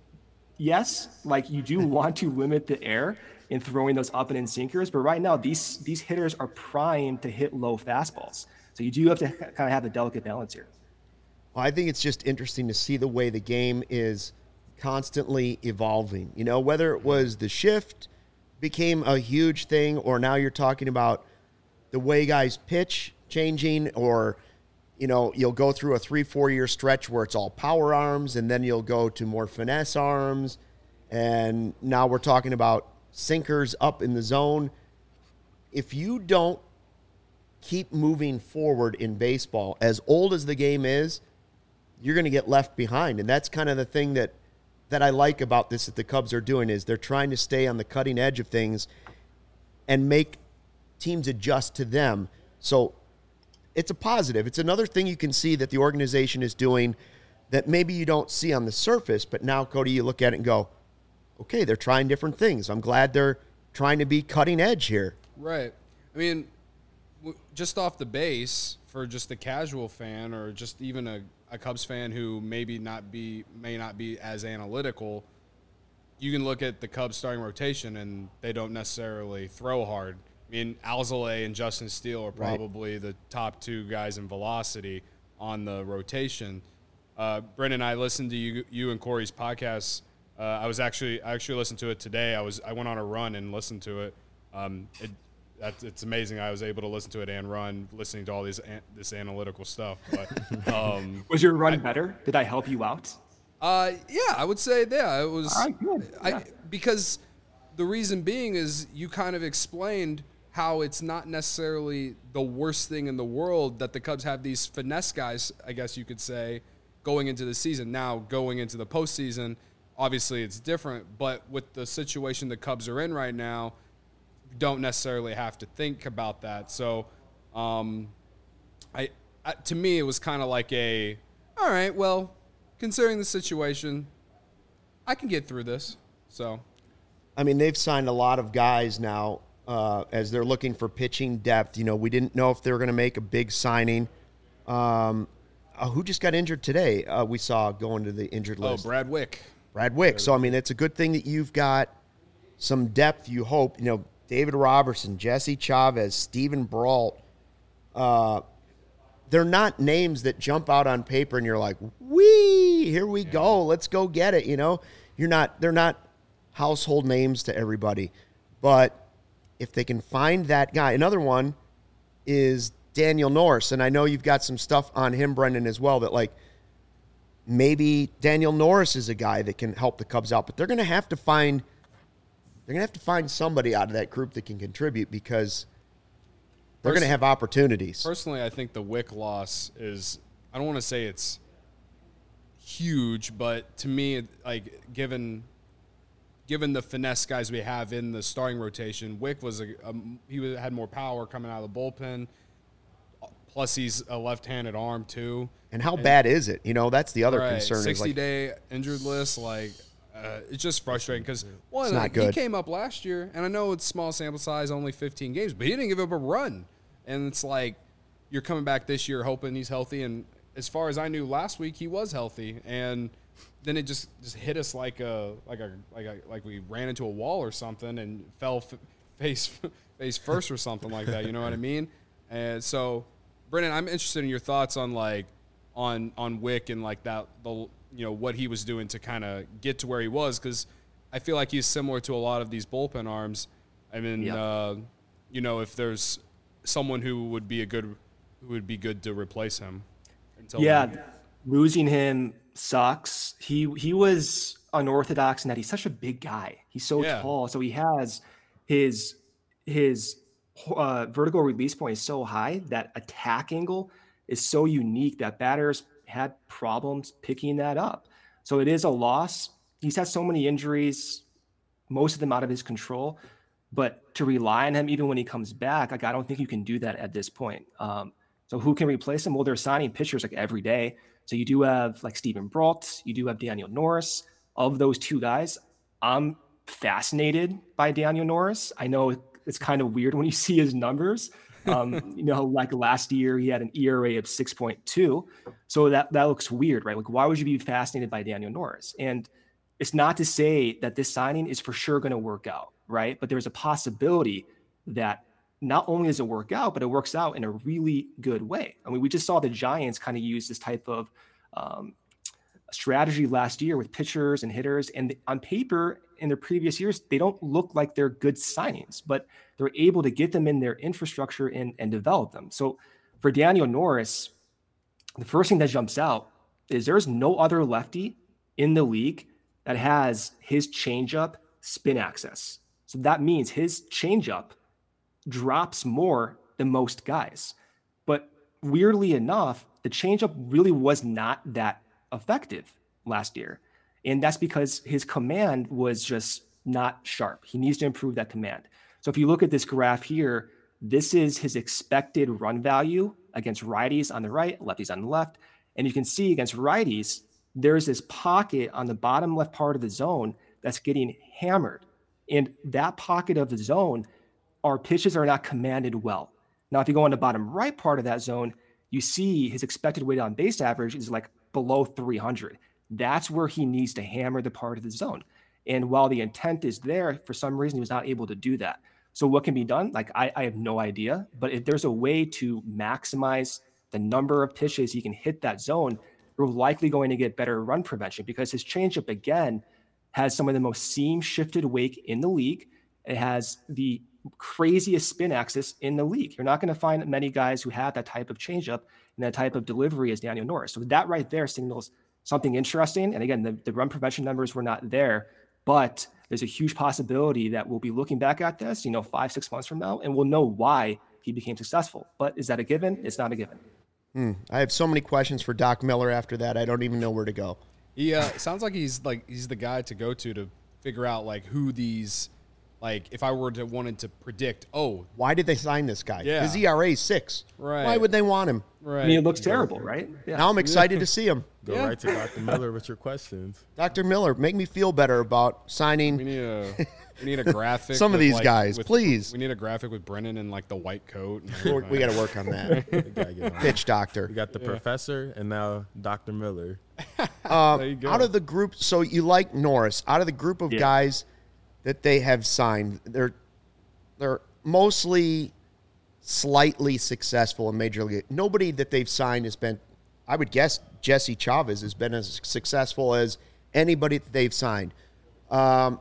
yes, like you do want to limit the air in throwing those up and in sinkers, but right now these these hitters are primed to hit low fastballs. So you do have to kind of have a delicate balance here. Well, I think it's just interesting to see the way the game is constantly evolving. You know, whether it was the shift became a huge thing, or now you're talking about the way guys pitch changing, or, you know, you'll go through a three, four year stretch where it's all power arms, and then you'll go to more finesse arms. And now we're talking about sinkers up in the zone. If you don't keep moving forward in baseball, as old as the game is, you're going to get left behind. And that's kind of the thing that, that I like about this that the Cubs are doing, is they're trying to stay on the cutting edge of things and make teams adjust to them. So it's a positive. It's another thing you can see that the organization is doing that maybe you don't see on the surface, but now, Cody, you look at it and go, okay, they're trying different things. I'm glad they're trying to be cutting edge here. Right. I mean, w- just off the base, for just a casual fan or just even a, a Cubs fan who maybe not be may not be as analytical, you can look at the Cubs starting rotation and they don't necessarily throw hard. I mean, Alzolay and Justin Steele are probably right. the top two guys in velocity on the rotation. Uh, Brendan, I listened to you, you and Corey's podcast. Uh, I was actually I actually listened to it today. I was I went on a run and listened to it. Um, it that's it's amazing. I was able to listen to it and run, listening to all these an, this analytical stuff. But um, was your run I, better? Did I help you out? Uh, yeah, I would say yeah. It was all right, good. I Yeah. because the reason being is you kind of explained how it's not necessarily the worst thing in the world that the Cubs have these finesse guys, I guess you could say, going into the season. Now, going into the postseason, obviously it's different, but with the situation the Cubs are in right now, you don't necessarily have to think about that. So, um, I, I to me, it was kind of like a, all right, well, considering the situation, I can get through this. So, I mean, they've signed a lot of guys now uh, as they're looking for pitching depth. You know, we didn't know if they were going to make a big signing. Um, uh, who just got injured today? Uh, we saw going to the injured oh, list. Brad Wick. Brad Wick. So, I mean, it's a good thing that you've got some depth, you hope. You know, David Robertson, Jesse Chavez, Steven Brault. Uh, they're not names that jump out on paper and you're like, wee, here we yeah. go. Let's go get it. You know, you're not, they're not household names to everybody. But if they can find that guy, another one is Daniel Norris. And I know you've got some stuff on him, Brendan, as well, that like maybe Daniel Norris is a guy that can help the Cubs out, but they're going to have to find, they're going to have to find somebody out of that group that can contribute because they're going to have opportunities. Personally, I think the Wick loss is, I don't want to say it's huge, but to me, like given, given the finesse guys we have in the starting rotation, Wick was a, a he had more power coming out of the bullpen. Plus, he's a left-handed arm too. And how and, bad is it? You know, that's the other right, concern. sixty-day like, injured list, like uh, it's just frustrating because one, it's not like, good. He came up last year, and I know it's small sample size, only fifteen games, but he didn't give up a run. And it's like you're coming back this year hoping he's healthy. And as far as I knew last week, he was healthy, and then it just, just hit us like a like a like a like we ran into a wall or something and fell f- face face first or something like that. You know what I mean? And so, Brennan, I'm interested in your thoughts on like on on Wick and like that the you know what he was doing to kind of get to where he was, because I feel like he's similar to a lot of these bullpen arms. I mean, yeah. uh, you know, if there's someone who would be a good who would be good to replace him. Until yeah. then. losing him sucks. He he was unorthodox in that he's such a big guy. He's so Yeah. tall, so he has his his uh, vertical release point is so high that attack angle is so unique that batters had problems picking that up. So it is a loss. He's had so many injuries, most of them out of his control. But to rely on him even when he comes back, like I don't think you can do that at this point. Um, so who can replace him? Well, they're signing pitchers like every day. So you do have like Steven Brault, you do have Daniel Norris. Of those two guys, I'm fascinated by Daniel Norris. I know it's kind of weird when you see his numbers. Um, you know, like last year he had an E R A of six point two. So that, that looks weird, right? Like why would you be fascinated by Daniel Norris? And it's not to say that this signing is for sure going to work out, right? But there's a possibility that not only does it work out, but it works out in a really good way. I mean, we just saw the Giants kind of use this type of um, strategy last year with pitchers and hitters. And on paper, in their previous years, they don't look like they're good signings, but they're able to get them in their infrastructure and, and develop them. So for Daniel Norris, the first thing that jumps out is there's no other lefty in the league that has his changeup spin access. So that means his changeup drops more than most guys. But weirdly enough, the changeup really was not that effective last year. And that's because his command was just not sharp. He needs to improve that command. So if you look at this graph here, this is his expected run value against righties on the right, lefties on the left. And you can see against righties, there's this pocket on the bottom left part of the zone that's getting hammered. And that pocket of the zone, our pitches are not commanded well. Now, if you go on the bottom right part of that zone, you see his expected weighted on base average is like below three hundred. That's where he needs to hammer the part of the zone. And while the intent is there, for some reason, he was not able to do that. So what can be done? Like, I, I have no idea. But if there's a way to maximize the number of pitches he can hit that zone, you're likely going to get better run prevention because his changeup, again, has some of the most seam shifted wake in the league. It has the craziest spin axis in the league. You're not going to find many guys who have that type of changeup and that type of delivery as Daniel Norris. So that right there signals something interesting. And again, the, the run prevention numbers were not there, but there's a huge possibility that we'll be looking back at this, you know, five, six months from now, and we'll know why he became successful. But is that a given? It's not a given. Hmm. I have so many questions for Doc Miller after that. I don't even know where to go. He uh, sounds like he's like he's the guy to go to to figure out like who these, like if I were to wanted to predict, oh, Why did they sign this guy? Yeah. His E R A is six. Right. Why would they want him? right. I mean, it looks terrible, right? Yeah. Now I'm excited to see him. Go Yeah. right to Doctor Miller with your questions. Doctor Miller, make me feel better about We signing. need a we need a graphic. Some of with, these like, guys, with- please. We need a graphic with Brennan in like the white coat. And We everything. got to work on that. We gotta get on. Pitch doctor. We got the professor and now Doctor Miller. Uh, There you go. out of the group, so you like Norris. Out of the group of Yeah. guys that they have signed, they're they're mostly slightly successful in Major League. Nobody that they've signed has been, I would guess, Jesse Chavez has been as successful as anybody that they've signed. Um,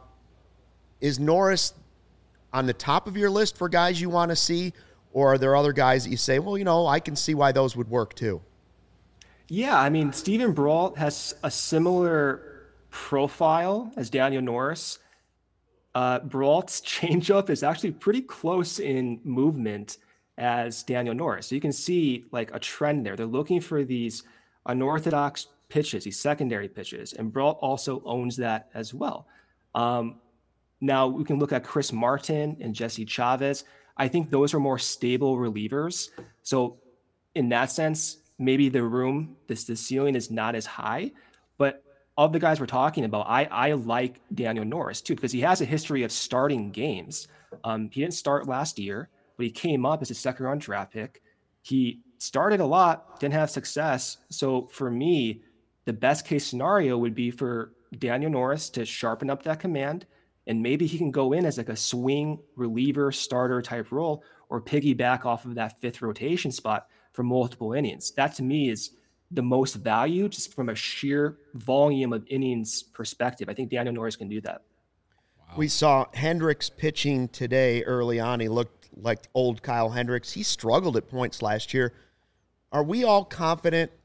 is Norris on the top of your list for guys you want to see, or are there other guys that you say, well, you know, I can see why those would work too? Yeah, I mean, Steven Brault has a similar profile as Daniel Norris. Uh, Brault's changeup is actually pretty close in movement as Daniel Norris. So you can see like a trend there. They're looking for these unorthodox pitches, these secondary pitches, and Brault also owns that as well. Um, now we can look at Chris Martin and Jesse Chavez. I think those are more stable relievers. So in that sense, maybe the room, this the ceiling is not as high, but of the guys we're talking about, I, I like Daniel Norris too, because he has a history of starting games. Um, he didn't start last year, but he came up as a second round draft pick. He started a lot, didn't have success. So for me, the best case scenario would be for Daniel Norris to sharpen up that command, and maybe he can go in as like a swing reliever starter type role or piggyback off of that fifth rotation spot for multiple innings. That to me is the most value just from a sheer volume of innings perspective. I think Daniel Norris can do that. We saw Hendricks pitching today early on. He looked like old Kyle Hendricks. He struggled at points last year. Are we all confident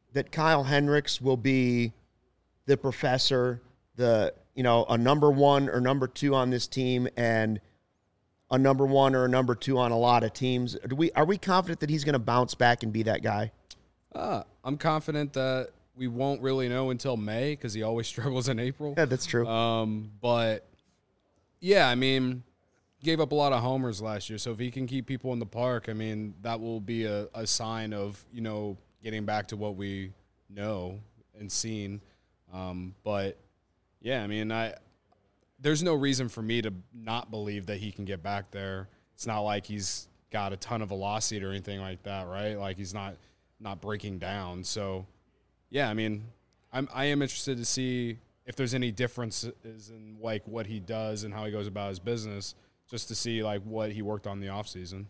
that Kyle Hendricks will be the professor, the you know a number one or number two on this team, and a number one or a number two on a lot of teams? Do we are we confident that he's going to bounce back and be that guy? Uh, I'm confident that we won't really know until May because he always struggles in April. Yeah, that's true. Um, but yeah, I mean, gave up a lot of homers last year, so if he can keep people in the park, I mean, that will be a, a sign of you know getting back to what we know and seen. Um, but yeah, I mean, I. There's no reason for me to not believe that he can get back there. It's not like he's got a ton of velocity or anything like that, right? Like he's not not breaking down. So, yeah, I mean, I'm I am interested to see if there's any differences in like what he does and how he goes about his business, just to see like what he worked on in the offseason.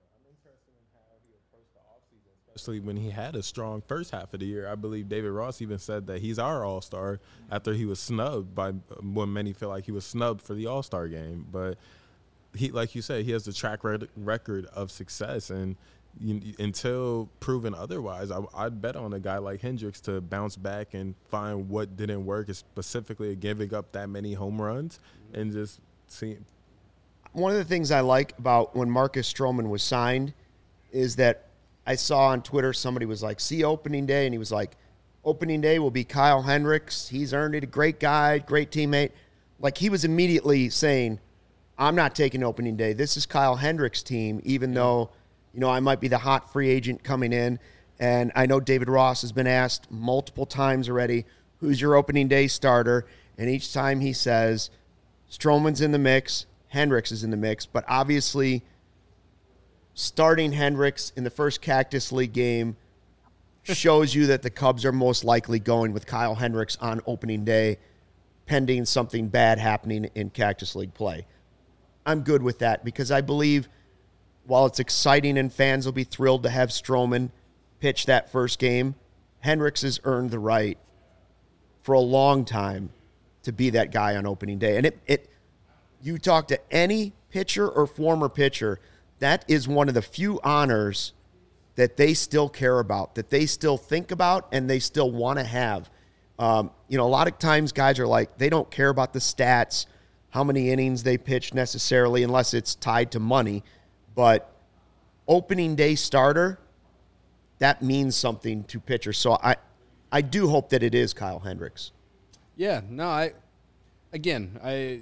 Especially when he had a strong first half of the year. I believe David Ross even said that he's our all-star after he was snubbed by when many feel like he was snubbed for the all-star game. But he, like you said, he has the track record of success, and you, until proven otherwise, I, I'd bet on a guy like Hendricks to bounce back and find what didn't work, specifically giving up that many home runs and just see. One of the things I like about when Marcus Stroman was signed is that I saw on Twitter somebody was like, see opening day, and he was like, opening day will be Kyle Hendricks. He's earned it, a great guy, great teammate. Like he was immediately saying, I'm not taking opening day. This is Kyle Hendricks' team, even though, you know, I might be the hot free agent coming in. And I know David Ross has been asked multiple times already, who's your opening day starter? And each time he says, Stroman's in the mix, Hendricks is in the mix, but obviously starting Hendricks in the first Cactus League game shows you that the Cubs are most likely going with Kyle Hendricks on opening day, pending something bad happening in Cactus League play. I'm good with that because I believe while it's exciting and fans will be thrilled to have Stroman pitch that first game, Hendricks has earned the right for a long time to be that guy on opening day. And it, it you talk to any pitcher or former pitcher, that is one of the few honors that they still care about, that they still think about, and they still want to have. Um, you know, a lot of times guys are like, they don't care about the stats, how many innings they pitch necessarily, unless it's tied to money. But opening day starter, that means something to pitchers. So I, I do hope that it is Kyle Hendricks. Yeah, no, I, again, I,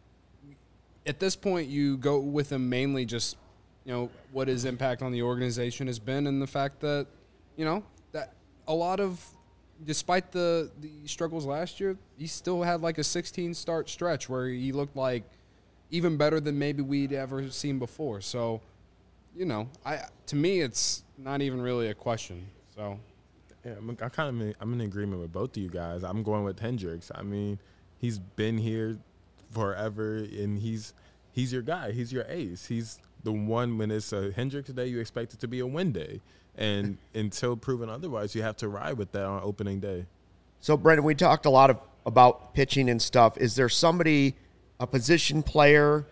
at this point, you go with him mainly just, you know, what his impact on the organization has been, and the fact that, you know, that a lot of, despite the, the struggles last year, he still had like a sixteen start stretch where he looked like even better than maybe we'd ever seen before. So, you know, I to me, it's not even really a question. So, yeah, I'm, I kind of in, I'm in agreement with both of you guys. I'm going with Hendricks. I mean, he's been here forever, and he's he's your guy. He's your ace. He's the one when it's a Hendricks day, you expect it to be a win day. And until proven otherwise, you have to ride with that on opening day. So, Brendan, we talked a lot of, about pitching and stuff. Is there somebody, a position player,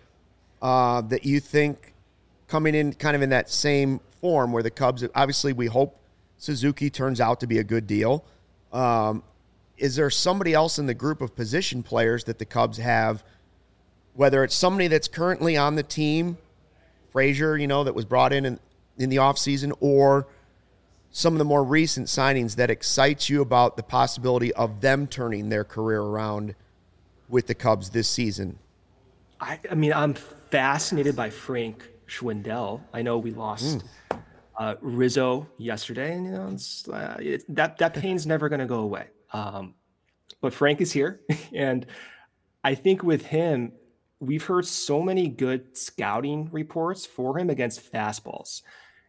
uh, that you think coming in kind of in that same form where the Cubs, obviously we hope Suzuki turns out to be a good deal. Um, is there somebody else in the group of position players that the Cubs have, whether it's somebody that's currently on the team, Frazier, you know, that was brought in in, in the offseason, or some of the more recent signings that excites you about the possibility of them turning their career around with the Cubs this season? I, I mean, I'm fascinated by Frank Schwindel. I know we lost mm. uh, Rizzo yesterday, and you know it's, uh, it, that that pain's never going to go away. Um, but Frank is here, and I think with him, we've heard so many good scouting reports for him against fastballs,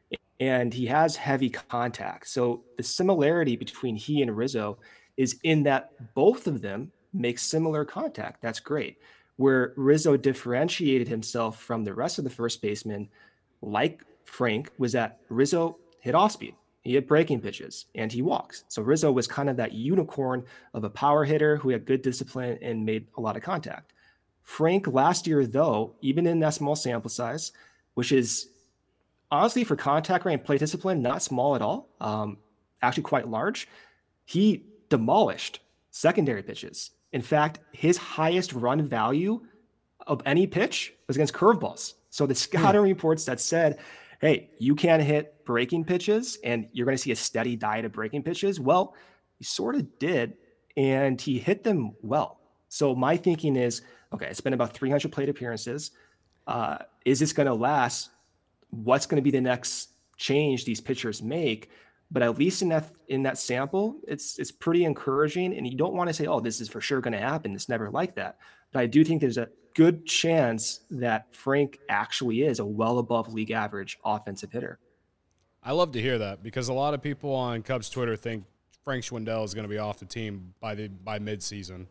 and he has heavy contact. So the similarity between he and Rizzo is in that both of them make similar contact. That's great. Where Rizzo differentiated himself from the rest of the first basemen, like Frank, was that Rizzo hit off speed. He hit breaking pitches, and he walks. So Rizzo was kind of that unicorn of a power hitter who had good discipline and made a lot of contact. Frank last year, though, even in that small sample size, which is honestly for contact rate and play discipline, not small at all, um, actually quite large. He demolished secondary pitches. In fact, his highest run value of any pitch was against curveballs. So the scouting hmm. reports that said, hey, you can't hit breaking pitches and you're going to see a steady diet of breaking pitches. Well, he sort of did, and he hit them well. So my thinking is, okay, it's been about three hundred plate appearances. Uh, is this going to last? What's going to be the next change these pitchers make? But at least in that in that sample, it's it's pretty encouraging. And you don't want to say, oh, this is for sure going to happen. It's never like that. But I do think there's a good chance that Frank actually is a well above league average offensive hitter. I love to hear that, because a lot of people on Cubs Twitter think Frank Schwindel is going to be off the team by the by midseason.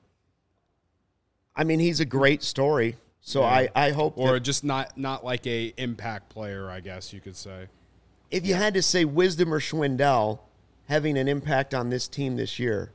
I mean, he's a great story. So yeah. I, I hope Or that, just not, not like a impact player, I guess you could say. If you had to say Wisdom or Schwindel having an impact on this team this year,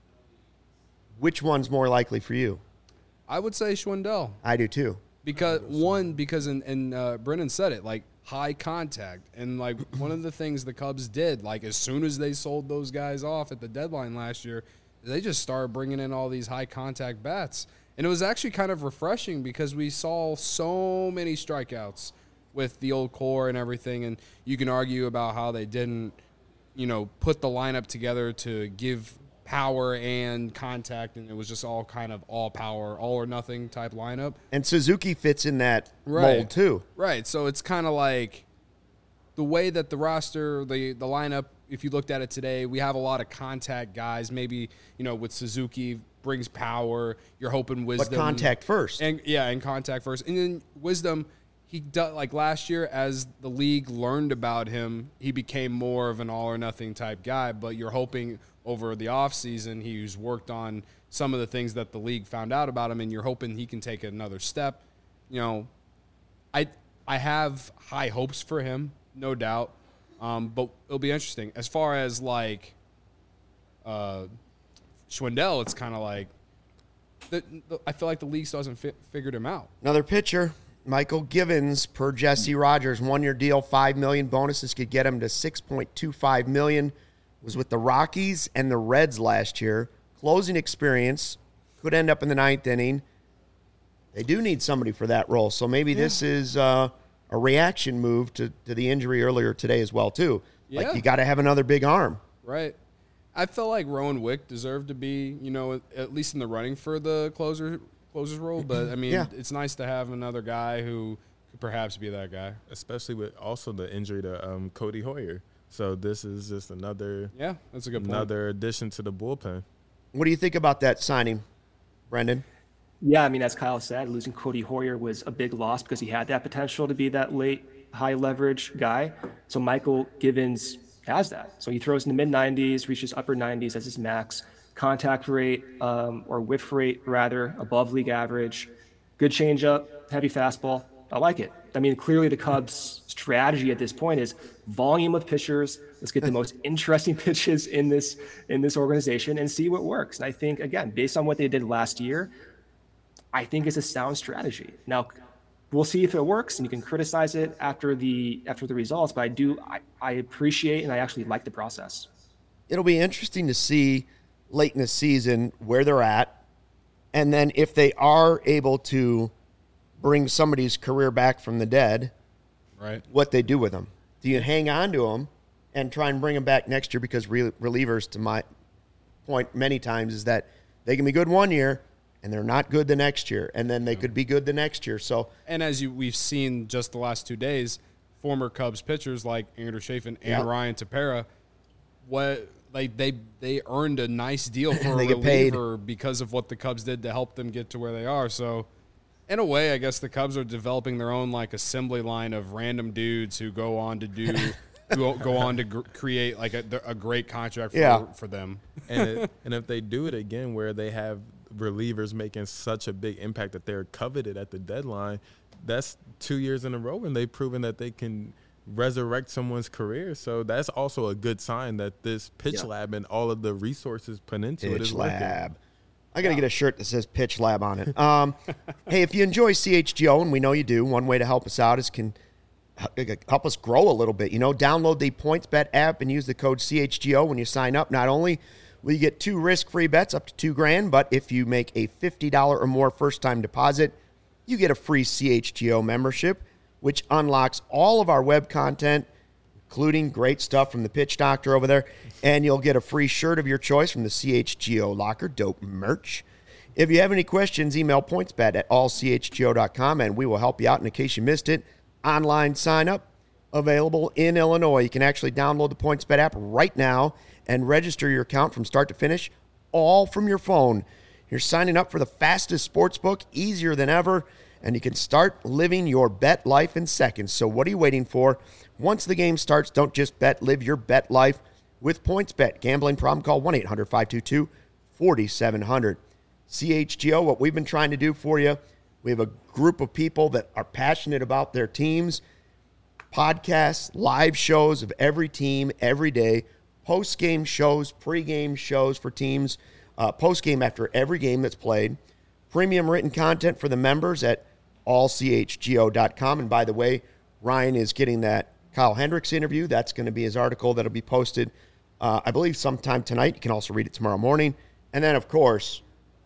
which one's more likely for you? I would say Schwindel. I do too. Because one, because in, and uh, Brennan said it, like high contact, and like one of the things the Cubs did, like as soon as they sold those guys off at the deadline last year, they just started bringing in all these high contact bats, and it was actually kind of refreshing because we saw so many strikeouts with the old core and everything, and you can argue about how they didn't, you know, put the lineup together to give power and contact, and it was just all kind of all power, all or nothing type lineup. And Suzuki fits in that right. mold too. Right. So it's kind of like the way that the roster, the the lineup, if you looked at it today, we have a lot of contact guys. Maybe, you know, with Suzuki brings power. You're hoping Wisdom. But contact first. And yeah, and contact first. And then Wisdom, he does, like last year, as the league learned about him, he became more of an all or nothing type guy. But you're hoping over the offseason, he's worked on some of the things that the league found out about him, and you're hoping he can take another step. You know, I I have high hopes for him, no doubt. Um, but it'll be interesting. As far as, like, uh, Schwindel, it's kind of like the, the, I feel like the league still hasn't fi- figured him out. Another pitcher, Michael Givens, per Jesse Rogers, one-year deal, five million dollars. Bonuses could get him to six point two five million dollars. Was with the Rockies and the Reds last year. Closing experience, could end up in the ninth inning. They do need somebody for that role, so maybe yeah. this is uh, a reaction move to, to the injury earlier today as well, too. Yeah. Like, you got to have another big arm. Right. I felt like Rowan Wick deserved to be, you know, at least in the running for the closer closer's role, but, I mean, yeah. it's nice to have another guy who could perhaps be that guy. Especially with also the injury to um, Cody Hoyer. So this is just another yeah, that's a good point. Another addition to the bullpen. What do you think about that signing, Brendan? Yeah, I mean, as Kyle said, losing Cody Hoyer was a big loss because he had that potential to be that late, high leverage guy. So Michael Givens has that. So he throws in the mid nineties, reaches upper nineties as his max. Contact rate, um, or whiff rate, rather, above league average. Good changeup, heavy fastball. I like it. I mean, clearly the Cubs' strategy at this point is volume of pitchers. Let's get the most interesting pitches in this in this organization and see what works. And I think, again, based on what they did last year, I think it's a sound strategy. Now, we'll see if it works, and you can criticize it after the after the results. But I do, I, I appreciate and I actually like the process. It'll be interesting to see late in the season where they're at, and then if they are able to bring somebody's career back from the dead, right? What they do with them. Do you hang on to them and try and bring them back next year? Because re- relievers, to my point many times, is that they can be good one year and they're not good the next year, and then they could be good the next year. So, and as you we've seen just the last two days, former Cubs pitchers like Andrew Chafin and yep. Ryan Tepera, what like they they earned a nice deal for a reliever because of what the Cubs did to help them get to where they are. So, in a way, I guess the Cubs are developing their own like assembly line of random dudes who go on to do, who go on to gr- create like a, a great contract for, yeah. for them. And it, and if they do it again, where they have relievers making such a big impact that they're coveted at the deadline, that's two years in a row, and they've proven that they can resurrect someone's career. So that's also a good sign that this pitch yeah. lab and all of the resources put into pitch it is lab. working. I got to get a shirt that says Pitch Lab on it. Um, hey, if you enjoy C H G O, and we know you do, one way to help us out is can help us grow a little bit. You know, download the PointsBet app and use the code C H G O when you sign up. Not only will you get two risk-free bets up to two grand, but if you make a fifty dollars or more first-time deposit, you get a free C H G O membership, which unlocks all of our web content, including great stuff from the Pitch Doctor over there, and you'll get a free shirt of your choice from the C H G O Locker, dope merch. If you have any questions, email pointsbet at all c h g o dot com, and we will help you out. And in case you missed it, online sign-up available in Illinois. You can actually download the PointsBet app right now and register your account from start to finish, all from your phone. You're signing up for the fastest sports book, easier than ever, and you can start living your bet life in seconds. So what are you waiting for? Once the game starts, don't just bet, live your bet life with PointsBet. Gambling problem, call one eight hundred five two two four seven zero zero. C H G O, what we've been trying to do for you, we have a group of people that are passionate about their teams, podcasts, live shows of every team every day, post-game shows, pre-game shows for teams, uh, post-game after every game that's played, premium written content for the members at all c h g o dot com. And by the way, Ryan is getting that Kyle Hendricks interview. That's going to be his article that'll be posted, uh, I believe, sometime tonight. You can also read it tomorrow morning. And then, of course,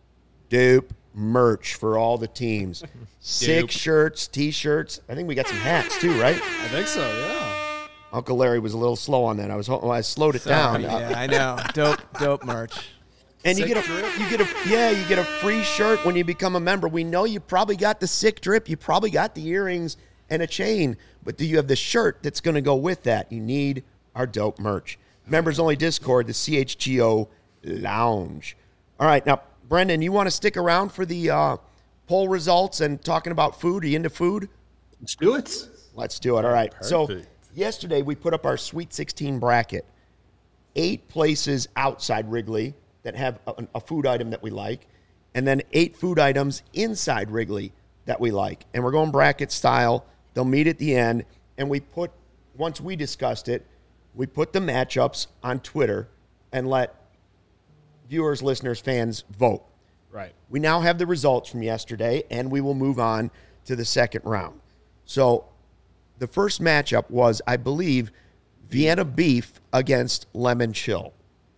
Dope merch for all the teams. Six Dupe. shirts, T-shirts. I think we got some hats too, right? I think so, yeah. Uncle Larry was a little slow on that. I was well, I slowed it down. Yeah, I know. Dope, dope merch. And you Sick get a drip? you get a yeah, you get a free shirt when you become a member. We know you probably got the sick drip, you probably got the earrings and a chain, but do you have the shirt that's going to go with that? You need our dope merch. Members only Discord, the C H G O Lounge. All right, now Brendan, you want to stick around for the uh, poll results and talking about food? Are you into food? Let's do it. Let's do it. All right. So Perfect. yesterday we put up our Sweet sixteen bracket. Eight places outside Wrigley that have a, a food item that we like, and then eight food items inside Wrigley that we like. And we're going bracket style. They'll meet at the end. And we put, once we discussed it, we put the matchups on Twitter and let viewers, listeners, fans vote. Right. We now have the results from yesterday, and we will move on to the second round. So the first matchup was, I believe, Vienna Beef against Lemon Chill.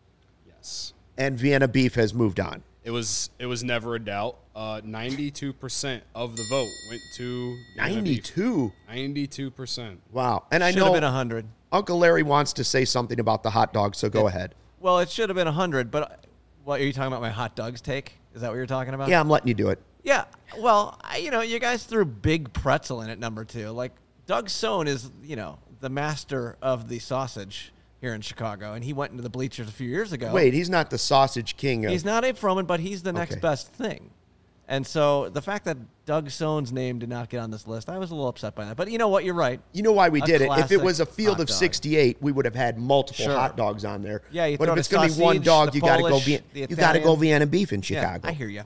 Yes. And Vienna Beef has moved on. It was it was never a doubt. Uh, ninety-two percent of the vote went to Vienna Beef. ninety-two. ninety-two percent. Wow. And I Should have know been one hundred. Uncle Larry wants to say something about the hot dog, so go ahead. Well, it should have been one hundred, but what, are you talking about my hot dogs take? Is that what you're talking about? Yeah, I'm letting you do it. Yeah. Well, I, you know, you guys threw Big Pretzel in at number two. Like, Doug Sohn is, you know, the master of the sausage here in Chicago, and he went into the bleachers a few years ago. Wait, he's not the sausage king of... He's not Abe Froman, but he's the next Okay. best thing. And so the fact that Doug Sohn's name did not get on this list, I was a little upset by that. But you know what? You're right. You know why we A did it? If it classic was a field hot of dog. sixty-eight, we would have had multiple Sure. hot dogs on there. Yeah, you but throw if the it's going to be one sausage, dog, the you got to go. Polish, Vien- the you got to go Italian. Vienna Beef in Chicago. Yeah, I hear you.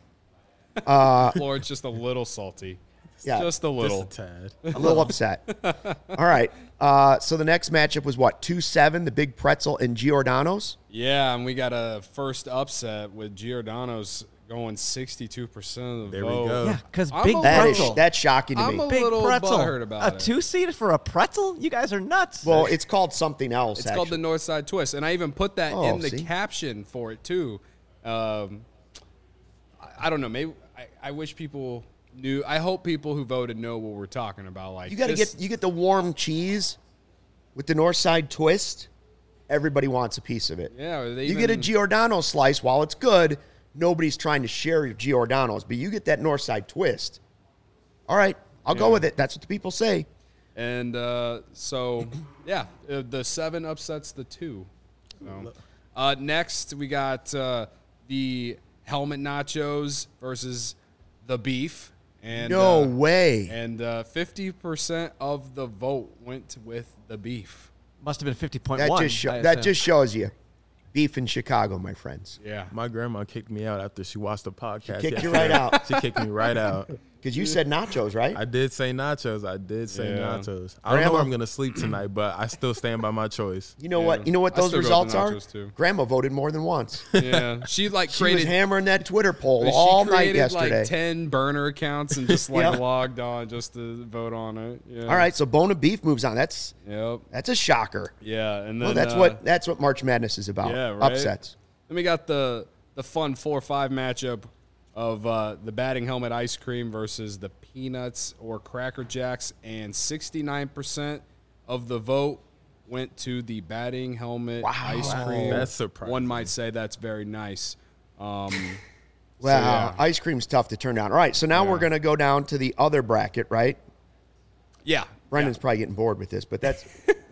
Floyd's just a little salty. Yeah. Just a little. Just a tad. A little upset. All right. Uh, so the next matchup was what? two seven, the Big Pretzel and Giordano's? Yeah, and we got a first upset with Giordano's going sixty-two percent of the There we vote. go. Yeah, because I'm Big a That is, Pretzel. that's shocking to I'm me. a Big little Pretzel. butthurt about a it. two-seat for a pretzel? You guys are nuts. Well, it's called something else, It's actually. called the North Side Twist, and I even put that Oh, in the see? caption for it too. Um, I, I don't know. Maybe I, I wish people knew. I hope people who voted know what we're talking about. Like You got to this- get you get the warm cheese with the North Side Twist. Everybody wants a piece of it. Yeah, or they you get a even- Giordano slice. While it's good, nobody's trying to share your Giordano's, but you get that North Side Twist. All right, I'll go Yeah. with it. That's what the people say. And uh, so, yeah, uh, the seven upsets the two. So, uh, next, we got uh, the helmet nachos versus the beef. And, No uh, way. And uh, fifty percent of the vote went with the beef. Must have been fifty point That one. just show, that just shows you beef in Chicago, my friends. Yeah. My grandma kicked me out after she watched the podcast. kicked you yesterday. right out. She kicked me right out. Because you said nachos, right? I did say nachos. I did say Yeah. nachos. I don't know Grandma- where I'm gonna sleep tonight, but I still stand by my choice. You know Yeah. what? You know what I those still go with results the are? nachos, too. Grandma voted more than once. Yeah, she like She was created hammering that Twitter poll she all night created, yesterday. like ten burner accounts and just like Yeah. logged on just to vote on it. Yeah. All right, so Bona Beef moves on. That's Yep. that's a shocker. Yeah, and then Well, that's uh, what that's what March Madness is about. Yeah, right? Upsets. Then we got the the fun four five matchup of uh, the batting helmet ice cream versus the peanuts or Cracker Jacks, and sixty-nine percent of the vote went to the batting helmet Wow. ice Wow. cream. That's surprising. One might say that's very nice. Um, Well, yeah. ice cream's tough to turn down. All right, so now Yeah. we're going to go down to the other bracket, right? yeah, Brendan's yeah. probably getting bored with this, but that's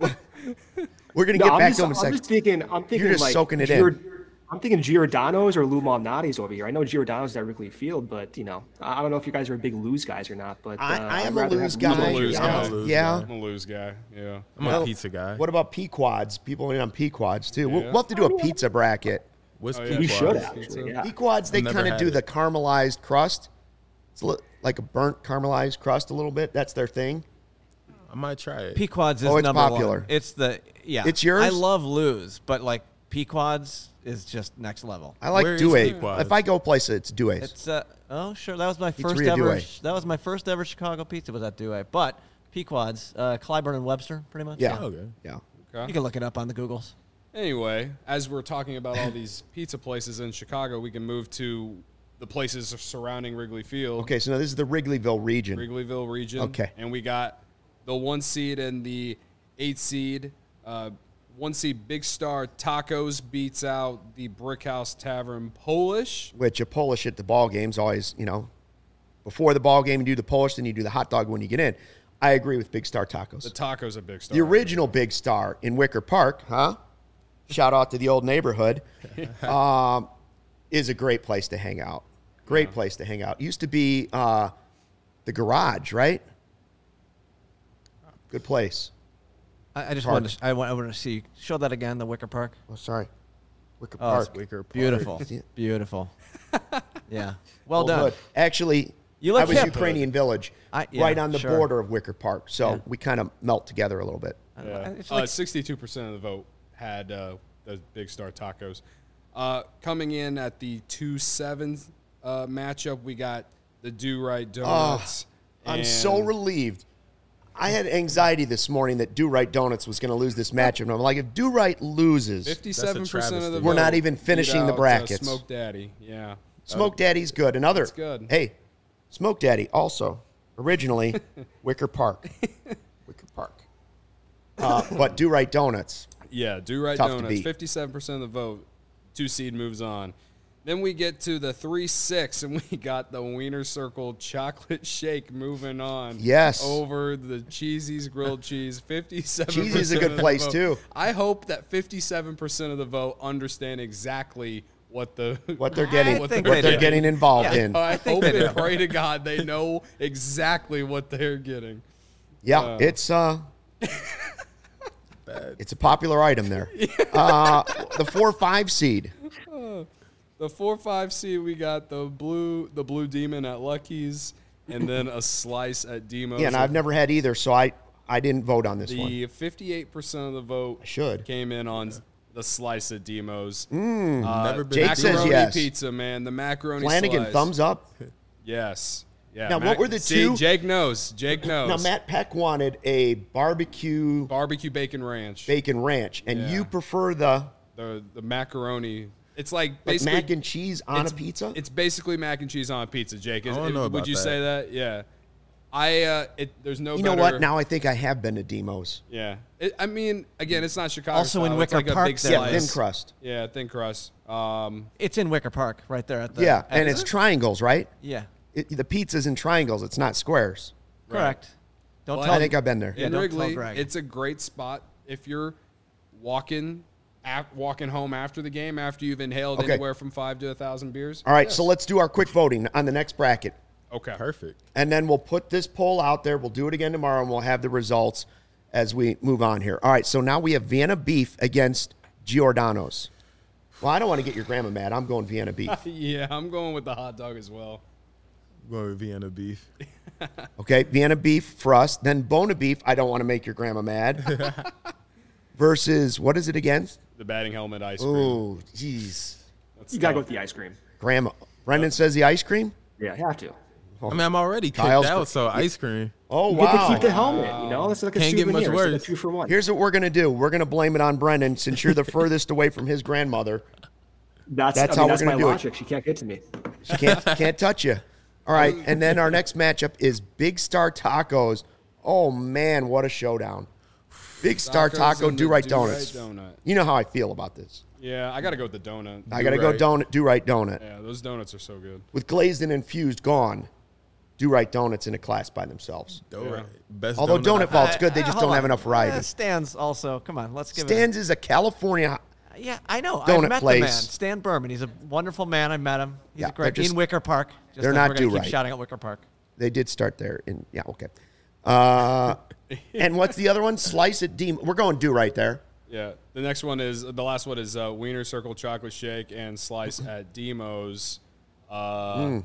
we're going to No, get I'm back just, to him in I'm a second. just thinking. I'm thinking just like soaking it in. Giord- I'm thinking Giordano's or Lou Malnati's over here. I know Giordano's at Wrigley Field, but you know, I I don't know if you guys are big Lose guys or not. But uh, I, I I'd am a rather lose have guy. I'm a lose I'm guy. a- Lose yeah. guy. I'm a lose guy. Yeah. I'm Well, a pizza guy. What about Pequods? People in on Pequods too. We'll, Yeah. we'll have to do a pizza bracket. What's Oh, yeah. We Pequod? should Pizza. actually. Yeah. Pequods, they I've never kind of had do it. the caramelized crust. It's li- like a burnt caramelized crust a little bit. That's their thing. I might try it. Pequods is Oh, it's number popular. one. It's the yeah. It's yours? I love Lose, but like Pequods is just next level. I like Where is Douay. Pequods? If I go place, it's Douay's. It's uh oh sure that was my first Pizzeria ever Douay. that was my first ever Chicago pizza was at Douay, but Pequods, uh, Clyburn and Webster, pretty much. Yeah. Okay. Yeah. Okay. You can look it up on the Googles. Anyway, as we're talking about all these pizza places in Chicago, we can move to the places surrounding Wrigley Field. Okay, so now this is the Wrigleyville region. Wrigleyville region. Okay. And we got the one seed and the eight seed. Uh, one seed Big Star Tacos beats out the Brickhouse Tavern Polish. Which a Polish at the ball game's always, you know, before the ball game you do the Polish, then you do the hot dog when you get in. I agree with Big Star Tacos. The tacos are Big Star. The original Big Star in Wicker Park, huh? Shout out to the old neighborhood. um, is a great place to hang out. Great Yeah. place to hang out. Used to be uh, the garage, right? Good place. I, I just Park. wanted to, I, want, I wanted to see show that again the Wicker Park. Oh, sorry. Wicker Oh, Park. Wicker Park. Beautiful, See it? beautiful. Yeah, well Old done. hood. Actually, You look I was hip. Ukrainian Village, I- yeah, right on the sure. border of Wicker Park. So Yeah. we kind of melt together a little bit. I- Yeah. It's Uh, like, sixty-two percent of the vote had uh, the Big Star Tacos. Uh, coming in at the two seven uh, matchup, we got the Do Right Donuts. I'm so and- relieved. I had anxiety this morning that Do Right Donuts was going to lose this matchup. And I'm like, if Do Right loses, fifty-seven percent of the travesty. vote. We're not even beat finishing the out, uh, brackets. Smoke Daddy, yeah. Smoke Daddy's good. Another. It's good. Hey, Smoke Daddy also originally Wicker Park. Wicker Park. Uh, but Do Right Donuts. Yeah, Do Right Tough to Donuts, beat. fifty-seven percent of the vote. Two seed moves on. Then we get to the three six, and we got the Wiener Circle Chocolate Shake moving on. Yes. Over the Cheesy's Grilled Cheese, fifty-seven percent. Cheesy's a good of the place, vote. too. I hope that fifty-seven percent of the vote understand exactly what the What they're getting, I what think they're they do. getting involved Yeah. in. I, hope they and pray to God they know exactly what they're getting. Yeah, Uh, it's uh, it's a popular item there. Uh, the four five seed. The four five seed, we got the blue the blue demon at Lucky's, and then a slice at Demo's. Yeah, and I've never had either, so I I didn't vote on this one. The fifty-eight percent of the vote I should. came in on the slice at Demo's. Mm, uh, never been Jake says macaroni yes. pizza, man. The macaroni Flanagan, slice. thumbs up. Yes. Yeah. Now, what were the See, two- Jake knows. Jake knows. Now, Matt Peck wanted a barbecue Barbecue bacon ranch. bacon ranch, and Yeah. you prefer the the the macaroni. It's like like basically mac and cheese on a it's- pizza. It's basically mac and cheese on a pizza, Jake. Is, I don't know would about you that. say that? Yeah. I uh, it there's no. you know better, what? Now I think I have been to Demos. Yeah. It, I mean, again, it's not Chicago. Also in style. It's Wicker like Park a big there. Yeah, slice. thin crust. Yeah, thin crust. Um, it's in Wicker Park, right there at the. Yeah, at and the- it's triangles, right? yeah, It, the pizza's in triangles. It's not squares. correct. Don't Well, tell I think I've been there. Yeah, in don't Wrigley, tell Greg. it's a great spot if you're walking, ap- walking home after the game after you've inhaled Okay. anywhere from five to a thousand beers. All right, so let's do our quick voting on the next bracket. Okay. Perfect. And then we'll put this poll out there. We'll do it again tomorrow, and we'll have the results as we move on here. All right, so now we have Vienna Beef against Giordano's. Well, I don't want to get your grandma mad. I'm going Vienna Beef. Yeah, I'm going with the hot dog as well. going with Vienna beef. Okay, Vienna beef for us. Then Bona beef. I don't want to make your grandma mad. Versus, what is it again? The batting helmet ice cream. Oh, jeez. That's You gotta go tough. with the ice cream. Grandma. Brendan says the ice cream? Yeah, you have to. I mean, I'm already kicked Kyle's out, the- so ice cream. Oh, You get to wow. keep the helmet. You know, that's like a Can't get souvenir. much It's like a worse. two for one. Here's what we're going to do. We're going to blame it on Brendan since you're the furthest away from his grandmother. that's that's I how mean, we're that's gonna my do it. logic. She can't get to me. She can't, can't touch you. All right, and then our next matchup is Big Star Tacos. Oh, man, what a showdown. Big Star Tacos Taco, and the Do-Right Do-Right Donuts. Donut. You know how I feel about this. Yeah, I got to go with the donut. I got to go Do-Right. donut, Do-Right Donut. Yeah, those donuts are so good. With glazed and infused gone, Do-Right Donuts in a class by themselves. Donut. Best Although donut. Donut Vault's Uh, good, they uh, just hold don't have on. enough variety. Uh, Stan's also. Come on, let's give Stan's is a California. it. Yeah, I know. Donut I've met place. the man, Stan Berman. He's a wonderful man. I met him. He's Yeah, a great they're just- in Wicker Park. Just they're as not we're gonna Do-Right. keep shouting at Wicker Park. They did start there. In yeah, okay. Uh, and what's the other one? Slice it, Deem. We're going Do Right there. Yeah, the next one is the last one is uh, Wiener Circle Chocolate Shake and Slice at Demo's. Uh, Mm.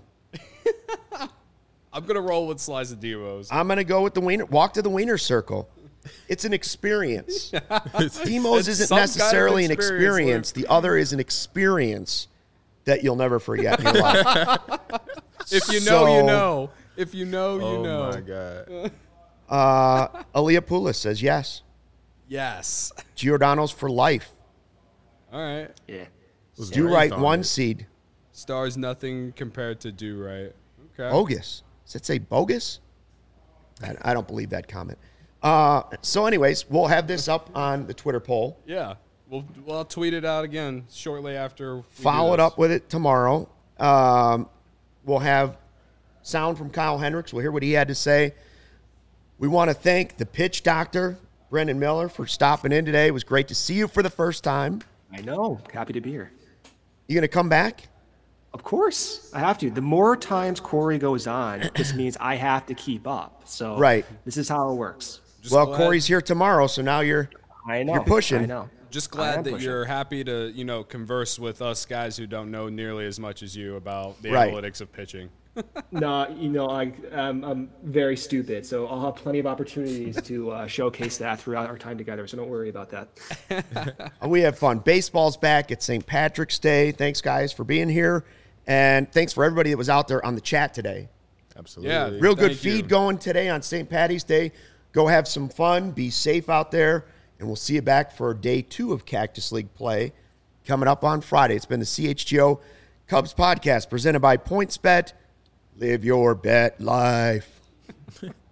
I'm gonna roll with Slice at Demo's. I'm gonna go with the Wiener. Walk to the Wiener Circle. It's an experience. Demos It's isn't some kind of necessarily an experience, experience. The other is an experience that you'll never forget in your life. If you know, you So- know. If you know, you Oh, know. my God. Uh, Aaliyah Poulos says yes. Yes. Giordano's for life. All right. Yeah. Was Do raised right on one it. seed. Stars nothing compared to Do Right. Okay. Bogus. Does it say bogus? I, I don't believe that comment. Uh, so, anyways, we'll have this up on the Twitter poll. Yeah. We'll, we'll tweet it out again shortly after. We do Follow it this. up with it tomorrow. Um, we'll have sound from Kyle Hendricks. We'll hear what he had to say. We want to thank the pitch doctor, Brendan Miller, for stopping in today. It was great to see you for the first time. I know. Happy to be here. You going to come back? Of course, I have to. The more times Corey goes on, this means I have to keep up. So Right. this is how it works. Just well, glad- Corey's here tomorrow, so now you're I know. You're pushing. I know. Just I glad am that pushing. you're happy to, you know, converse with us guys who don't know nearly as much as you about the Right. analytics of pitching. No, you know, I, um, I'm very stupid, so I'll have plenty of opportunities to uh, showcase that throughout our time together. So don't worry about that. We have fun. Baseball's back. It's Saint Patrick's Day. Thanks, guys, for being here. And thanks for everybody that was out there on the chat today. Absolutely. Yeah. Real good Thank you. feed going today on Saint Patty's Day. Go have some fun. Be safe out there. And we'll see you back for day two of Cactus League play coming up on Friday. It's been the C H G O Cubs podcast presented by PointsBet. Live your bet life.